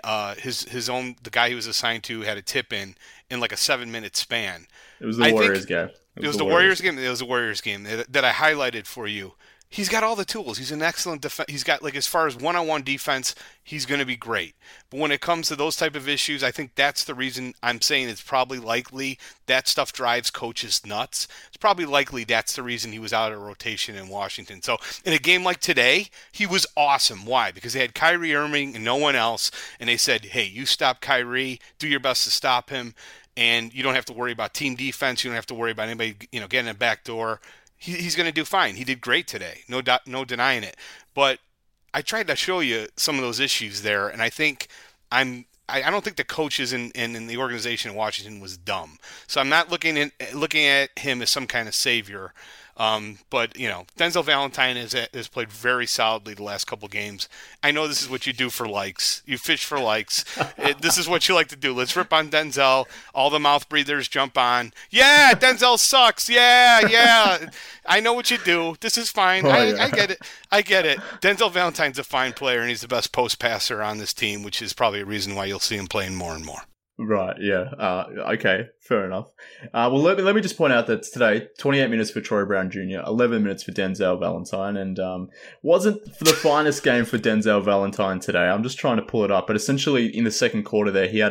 S8: the guy he was assigned to had a tip in like a 7-minute span.
S6: It was the Warriors game.
S8: It was the Warriors game. It was the Warriors game that I highlighted for you. He's got all the tools. He's an excellent defense. He's got, like, as far as one-on-one defense, he's going to be great. But when it comes to those type of issues, I think that's the reason I'm saying it's probably likely that stuff drives coaches nuts. It's probably likely that's the reason he was out of rotation in Washington. So in a game like today, he was awesome. Why? Because they had Kyrie Irving and no one else, and they said, hey, you stop Kyrie, do your best to stop him, and you don't have to worry about team defense. You don't have to worry about anybody, getting a backdoor. He's going to do fine. He did great today. No denying it. But I tried to show you some of those issues there, and I think I don't think the coaches in the organization in Washington was dumb. So I'm not looking at him as some kind of savior. But Denzel Valentine has played very solidly the last couple games. I know this is what you do for likes. You fish for likes. This is what you like to do. Let's rip on Denzel. All the mouth breathers jump on. Yeah, Denzel sucks. Yeah. I know what you do. This is fine. I get it. I get it. Denzel Valentine's a fine player, and he's the best post passer on this team, which is probably a reason why you'll see him playing more and more.
S6: Right, yeah. Okay, fair enough. Well, let me just point out that today, 28 minutes for Troy Brown Jr., 11 minutes for Denzel Valentine, and wasn't the finest game for Denzel Valentine today. I'm just trying to pull it up, but essentially in the second quarter there, he had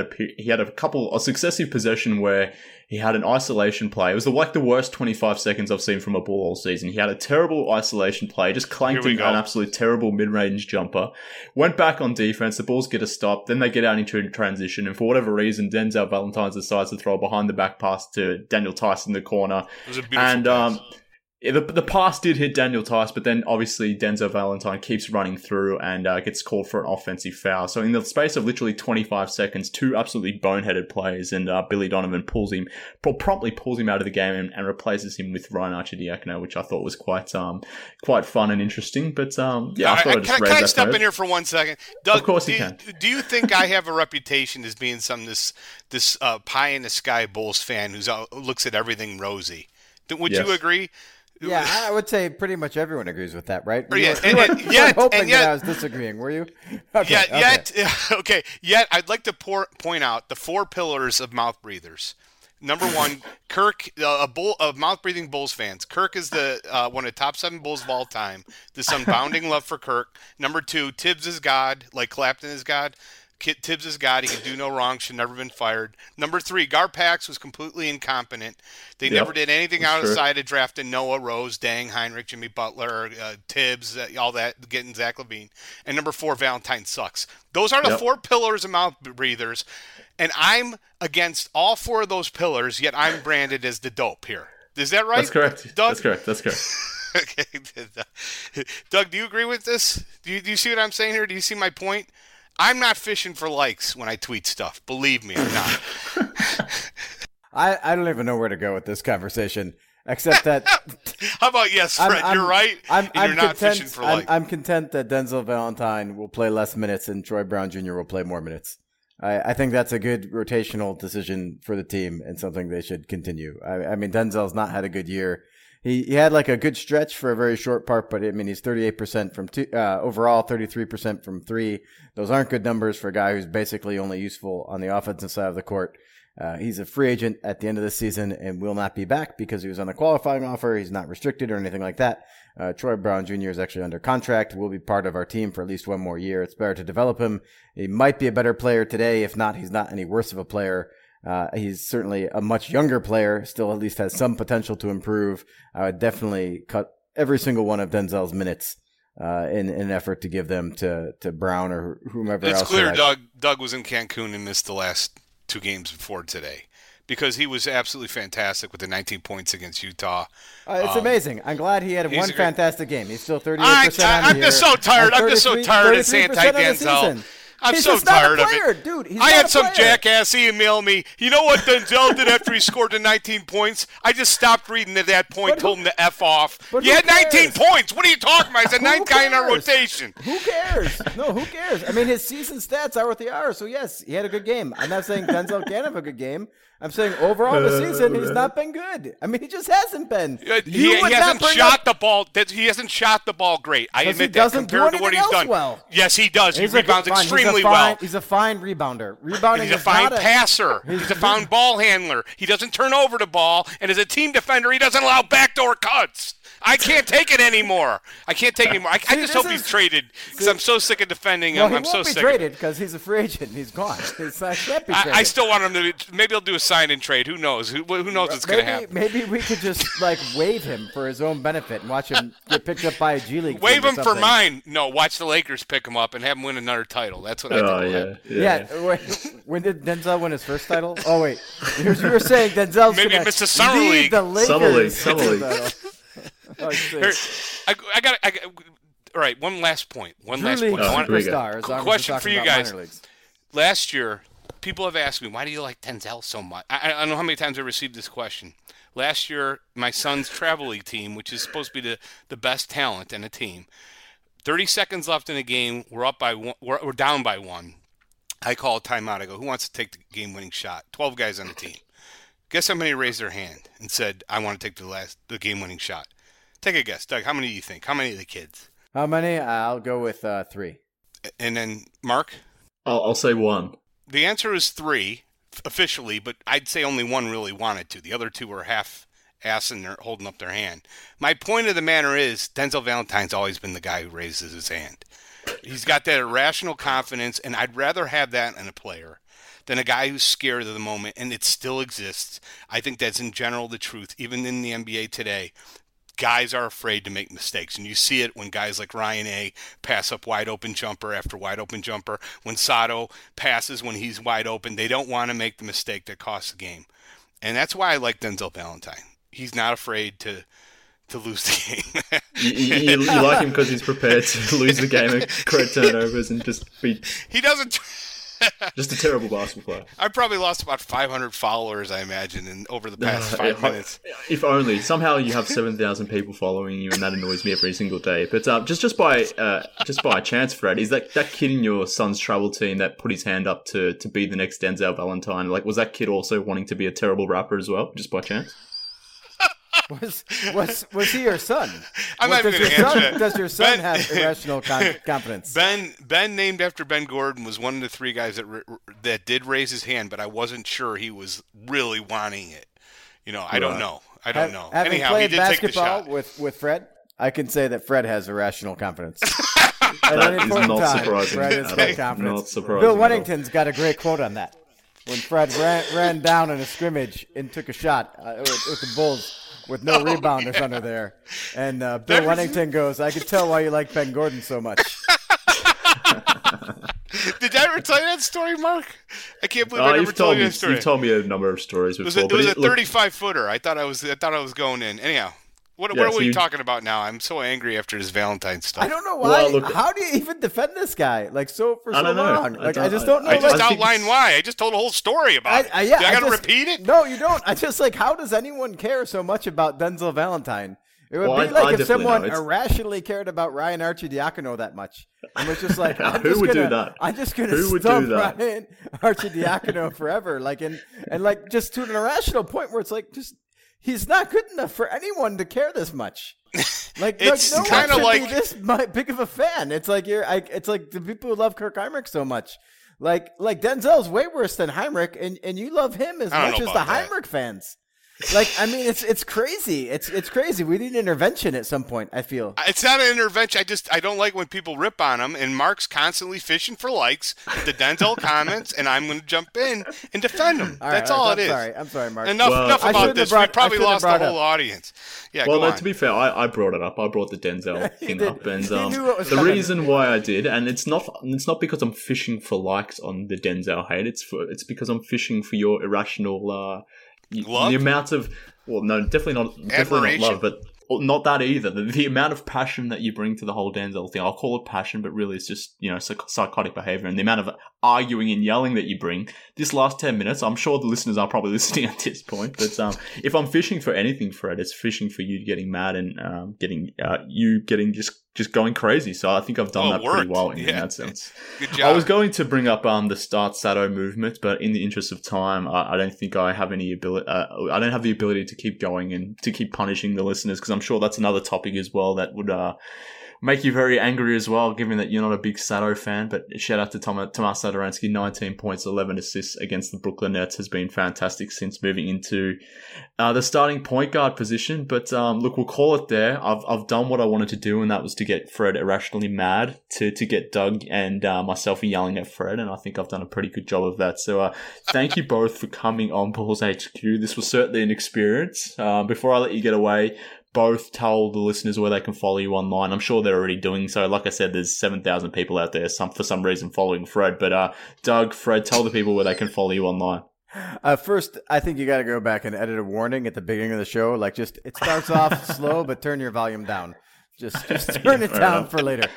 S6: a successive possession where he had an isolation play. It was the worst 25 seconds I've seen from a Bull all season. He had a terrible isolation play, just clanked in an absolute terrible mid-range jumper. Went back on defense, the Bulls get a stop, then they get out into a transition, and for whatever reason, Denzel Valentine decides to throw a behind-the-back pass to Daniel Tice in the corner.
S8: It was a beautiful pass.
S6: The pass did hit Daniel Tice, but then obviously Denzel Valentine keeps running through and gets called for an offensive foul. So in the space of literally 25 seconds, 2 absolutely boneheaded plays, and Billy Donovan promptly pulls him out of the game and replaces him with Ryan Arcidiacono, which I thought was quite fun and interesting. But I thought I'd just raise that.
S8: Can I step in here for 1 second? Doug,
S6: of course you can.
S8: Do you think I have a reputation as being this pie in the sky Bulls fan who looks at everything rosy? Would you agree?
S7: Yeah, I would say pretty much everyone agrees with that, right?
S8: Yet
S7: I was disagreeing, were you?
S8: Okay. Yet I'd like to point out the 4 pillars of mouth breathers. Number 1, Kirk, of mouth-breathing Bulls fans. Kirk is one of the top 7 Bulls of all time. There's some bounding love for Kirk. Number 2, Tibbs is God, like Clapton is God. Tibbs is God. He can do no wrong. Should never been fired. Number 3, Garpax was completely incompetent. They never did anything outside of drafting Noah, Rose, Dang, Heinrich, Jimmy Butler, Tibbs, all that, getting Zach LaVine. And number 4, Valentine sucks. Those are the 4 pillars of mouth breathers. And I'm against all 4 of those pillars, yet I'm branded as the dope here. Is that right?
S6: That's correct.
S8: Doug?
S6: That's correct.
S8: Okay. Doug, do you agree with this? Do you see what I'm saying here? Do you see my point? I'm not fishing for likes when I tweet stuff. Believe me, I'm not.
S7: I don't even know where to go with this conversation, except that...
S8: How about yes, Fred? You're right. You're not fishing for likes.
S7: I'm content that Denzel Valentine will play less minutes and Troy Brown Jr. will play more minutes. I think that's a good rotational decision for the team and something they should continue. I mean, Denzel's not had a good year. He had like a good stretch for a very short part, but I mean, he's 38% from 2, overall 33% from 3. Those aren't good numbers for a guy who's basically only useful on the offensive side of the court. He's a free agent at the end of the season and will not be back because he was on a qualifying offer. He's not restricted or anything like that. Troy Brown Jr. is actually under contract, will be part of our team for at least 1 more year. It's better to develop him. He might be a better player today. If not, he's not any worse of a player. He's certainly a much younger player, still at least has some potential to improve. I would definitely cut every single one of Denzel's minutes in an effort to give them to Brown or whomever else.
S8: It's clear Doug was in Cancun and missed the last 2 games before today, because he was absolutely fantastic with the 19 points against Utah.
S7: It's amazing. I'm glad he had one fantastic game. He's still 38%
S8: I'm just so tired. I'm just so tired of anti-Denzel. I'm so tired of it.
S7: Dude,
S8: I had some jackass email me, you know what Denzel did after he scored the 19 points? I just stopped reading at that point, told him to F off. You had 19 points. What are you talking about? He's a 9th guy in our rotation.
S7: Who cares? No, who cares? I mean, his season stats are what they are. So, yes, he had a good game. I'm not saying Denzel can't have a good game. I'm saying overall the season, he's not been good. I mean, he just hasn't been.
S8: He hasn't shot the ball. He hasn't shot the ball great. I admit that compared to what he's done.
S7: Well.
S8: Yes, he does. He rebounds extremely well.
S7: He's a fine rebounder. Rebounding.
S8: He's a fine passer. He's a fine ball handler. He doesn't turn over the ball, and as a team defender, he doesn't allow backdoor cuts. I can't take it anymore. I just hope he's traded because I'm so sick of defending him. I'm so sick.
S7: He won't be traded because he's a free agent. He's gone. Can't be traded.
S8: I still want him to. Maybe he'll do a sign and trade. Who knows? Who knows what's going to happen?
S7: Maybe we could just waive him for his own benefit and watch him get picked up by a G League.
S8: Waive him for mine. No, watch the Lakers pick him up and have him win another title. That's what I think.
S7: Yeah. When did Denzel win his first title? Oh wait, you were saying Denzel's
S8: maybe
S7: going
S8: to Summer League.
S7: The Lakers.
S6: Summer League.
S8: All right, one last point.
S7: Question
S8: for you guys. Last year, people have asked me, why do you like Denzel so much? I don't know how many times I received this question. Last year, my son's travel league team, which is supposed to be the best talent in a team, 30 seconds left in the game, we're down by 1. I call a timeout. I go, who wants to take the game-winning shot? 12 guys on the team. Guess how many raised their hand and said, I want to take the game-winning shot? Take a guess. Doug, how many do you think? How many of the kids?
S7: How many? I'll go with 3.
S8: And then, Mark?
S6: I'll say 1.
S8: The answer is 3, officially, but I'd say only 1 really wanted to. The other 2 were half-ass and they're holding up their hand. My point of the matter is, Denzel Valentine's always been the guy who raises his hand. He's got that irrational confidence, and I'd rather have that in a player than a guy who's scared of the moment, and it still exists. I think that's in general the truth, even in the NBA today. Guys are afraid to make mistakes, and you see it when guys like Ryan A. pass up wide open jumper after wide open jumper. When Sato passes when he's wide open, they don't want to make the mistake that costs the game. And that's why I like Denzel Valentine. He's not afraid to lose the game.
S6: you like him because he's prepared to lose the game and create turnovers and just be...
S8: He doesn't...
S6: Just a terrible basketball player.
S8: I probably lost about 500 followers, I imagine, over the past 5 minutes.
S6: If only. Somehow you have 7,000 people following you, and that annoys me every single day. But just by chance, Fred, is that kid in your son's travel team that put his hand up to be the next Denzel Valentine? Was that kid also wanting to be a terrible rapper as well, just by chance?
S7: Was he your son?
S8: I'm not even going to answer that.
S7: Does your son have irrational confidence?
S8: Ben, named after Ben Gordon, was one of the 3 guys that did raise his hand, but I wasn't sure he was really wanting it. I don't know. Anyhow, he did take the shot.
S7: With Fred, I can say that Fred has irrational confidence.
S6: That is not surprising.
S7: Fred has got confidence.
S6: Not surprising.
S7: Bill Wennington's got a great quote on that. When Fred ran down in a scrimmage and took a shot with the Bulls, with no rebounders under there. And Bill Wennington goes, I could tell why you like Ben Gordon so much.
S8: Did I ever tell you that story, Mark? I can't believe I never told you that story.
S6: You've told me a number of stories before.
S8: It was a 35-footer. I thought I was going in. Anyhow. What are we talking about now? I'm so angry after this Valentine stuff.
S7: I don't know why. Well, how do you even defend this guy? For so long. I just don't know.
S8: I just outlined why. I just told a whole story about it. I got to repeat it?
S7: No, you don't. I just how does anyone care so much about Denzel Valentine? It would be like if someone irrationally cared about Ryan Arcidiacono that much. And was just like,
S6: who would do that?
S7: I'm just going to stump Ryan Arcidiacono forever. And just to an irrational point where it's he's not good enough for anyone to care this much.
S8: It's
S7: no
S8: kind of
S7: be this big of a fan. It's like it's like the people who love Kirk Heinrich so much. Like Denzel's way worse than Heinrich, and you love him as much as the Heinrich fans. Like, I mean, it's crazy. It's crazy. We need intervention at some point, I feel.
S8: It's not an intervention. I don't like when people rip on him, and Mark's constantly fishing for likes with the Denzel comments, and I'm going to jump in and defend him. That's all it is.
S7: I'm sorry, Mark.
S8: Enough about this. We probably lost the whole audience. Yeah,
S6: well,
S8: go on.
S6: To be fair, I brought it up. I brought the Denzel thing up, and
S7: knew what was
S6: the
S7: coming.
S6: reason why I did, and it's not because I'm fishing for likes on the Denzel hate. It's because I'm fishing for your irrational
S8: love?
S6: The amount of definitely not love, but not that either. The amount of passion that you bring to the whole Denzel thing. I'll call it passion, but really it's just psychotic behavior, and the amount of arguing and yelling that you bring. This last 10 minutes, I'm sure the listeners are probably listening at this point, but if I'm fishing for anything, Fred, it's fishing for you getting mad and getting just going crazy. So I think I've done that pretty well in that sense.
S8: Good job.
S6: I was going to bring up the Start Sado movement, but in the interest of time, I don't think I have any ability. I don't have the ability to keep going and to keep punishing the listeners, because I'm sure that's another topic as well that would make you very angry as well, given that you're not a big Sado fan. But shout out to Tomas Satoransky, 19 points, 11 assists against the Brooklyn Nets, has been fantastic since moving into the starting point guard position. But look, we'll call it there. I've done what I wanted to do, and that was to get Fred irrationally mad, to get Doug and myself yelling at Fred, and I think I've done a pretty good job of that. So thank you both for coming on Bulls HQ. This was certainly an experience. Before I let you get away, both tell the listeners where they can follow you online. I'm sure they're already doing so. Like I said, there's 7,000 people out there for some reason following Fred. But Doug, Fred, tell the people where they can follow you online.
S7: First, I think you got to go back and edit a warning at the beginning of the show. Like, it starts off slow, but turn your volume down. Just turn it down for later.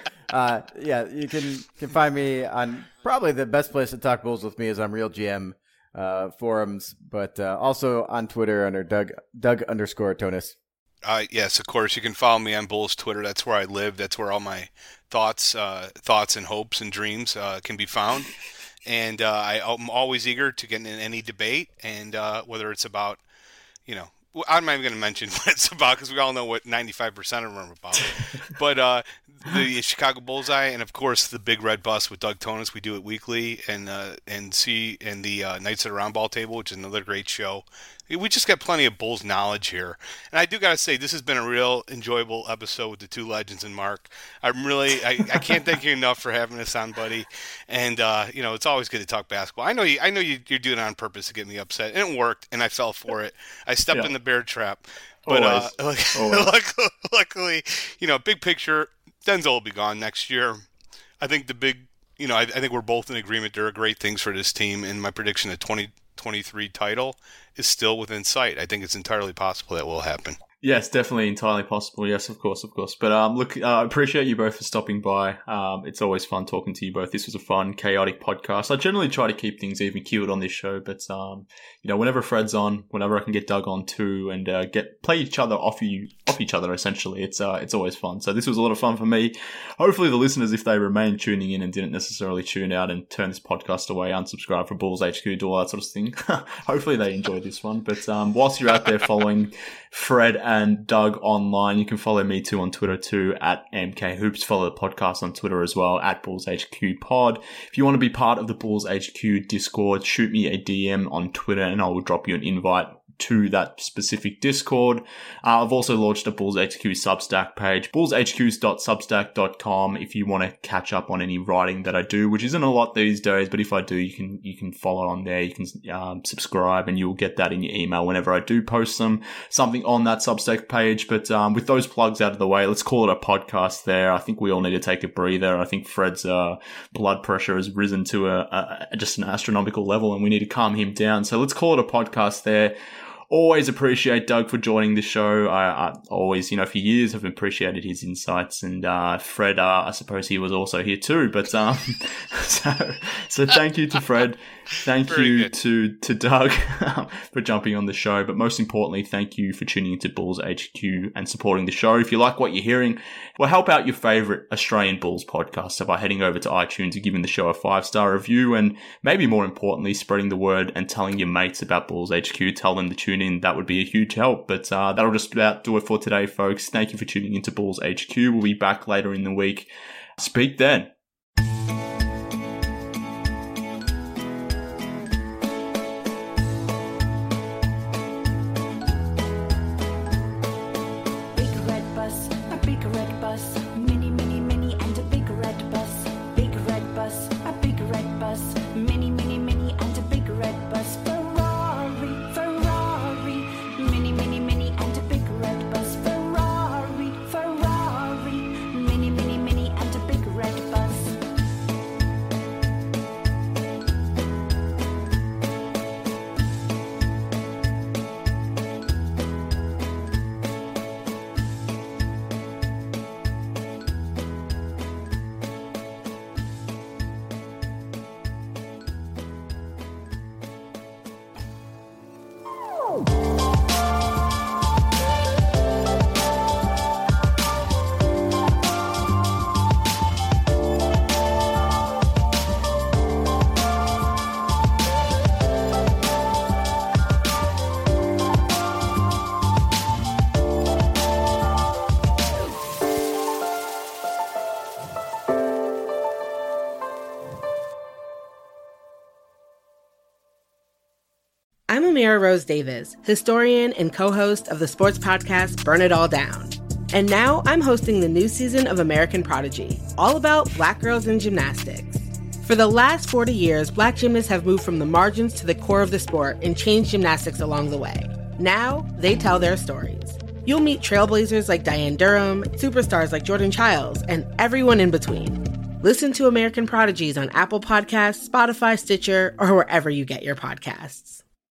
S7: You can find me on probably the best place to talk Bulls with me is on Real GM forums, but also on Twitter under Doug_Tonis.
S8: Yes, of course. You can follow me on Bulls Twitter. That's where I live. That's where all my thoughts and hopes and dreams can be found. And I'm always eager to get in any debate, and whether it's about, I'm not even going to mention what it's about because we all know what 95% of them are about. But the Chicago Bullseye, and of course the Big Red Bus with Doug Tonis. We do it weekly, and the Nights at the Round Ball Table, which is another great show. We just got plenty of Bulls knowledge here. And I do got to say, this has been a real enjoyable episode with the two legends and Mark. I can't thank you enough for having us on, buddy. And, it's always good to talk basketball. I know you're doing it on purpose to get me upset. And it worked, and I fell for it. I stepped in the bear trap. But luckily, big picture, Denzel will be gone next year. I think I think we're both in agreement there are great things for this team. And my prediction, the 2023 title is still within sight. I think it's entirely possible that will happen.
S6: Yes, definitely entirely possible. Yes, of course. But look, I appreciate you both for stopping by. It's always fun talking to you both. This was a fun, chaotic podcast. I generally try to keep things even keeled on this show, but whenever Fred's on, whenever I can get Doug on too, and play each other off each other, essentially, it's always fun. So this was a lot of fun for me. Hopefully, the listeners, if they remain tuning in and didn't necessarily tune out and turn this podcast away, unsubscribe from Bulls HQ, do all that sort of thing. Hopefully, they enjoyed this one. But whilst you're out there following Fred and Doug online, you can follow me too on Twitter too at MKHoops. Follow the podcast on Twitter as well at Bulls HQ Pod. If you want to be part of the Bulls HQ Discord, shoot me a DM on Twitter and I will drop you an invite to that specific Discord. I've also launched a Bulls HQ Substack page, bullshqs.substack.com, if you want to catch up on any writing that I do, which isn't a lot these days, but if I do, you can follow on there. You can subscribe and you'll get that in your email whenever I do post something on that Substack page. But with those plugs out of the way, let's call it a podcast there. I think we all need to take a breather. I think Fred's blood pressure has risen to just an astronomical level and we need to calm him down. So let's call it a podcast there. Always appreciate Doug for joining the show. I always, for years have appreciated his insights, and Fred, I suppose he was also here too. But so thank you to Fred. Thank you to Doug for jumping on the show. But most importantly, thank you for tuning into Bulls HQ and supporting the show. If you like what you're hearing, well, help out your favorite Australian Bulls podcast by heading over to iTunes and giving the show a 5-star review, and maybe more importantly, spreading the word and telling your mates about Bulls HQ. Tell them to tune in. That would be a huge help. But that'll just about do it for today, folks. Thank you for tuning into Bulls HQ. We'll be back later in the week. Speak then.
S1: I'm Amira Rose Davis, historian and co-host of the sports podcast Burn It All Down. And now I'm hosting the new season of American Prodigy, all about Black girls in gymnastics. For the last 40 years, Black gymnasts have moved from the margins to the core of the sport and changed gymnastics along the way. Now, they tell their stories. You'll meet trailblazers like Diane Durham, superstars like Jordan Childs, and everyone in between. Listen to American Prodigies on Apple Podcasts, Spotify, Stitcher, or wherever you get your podcasts.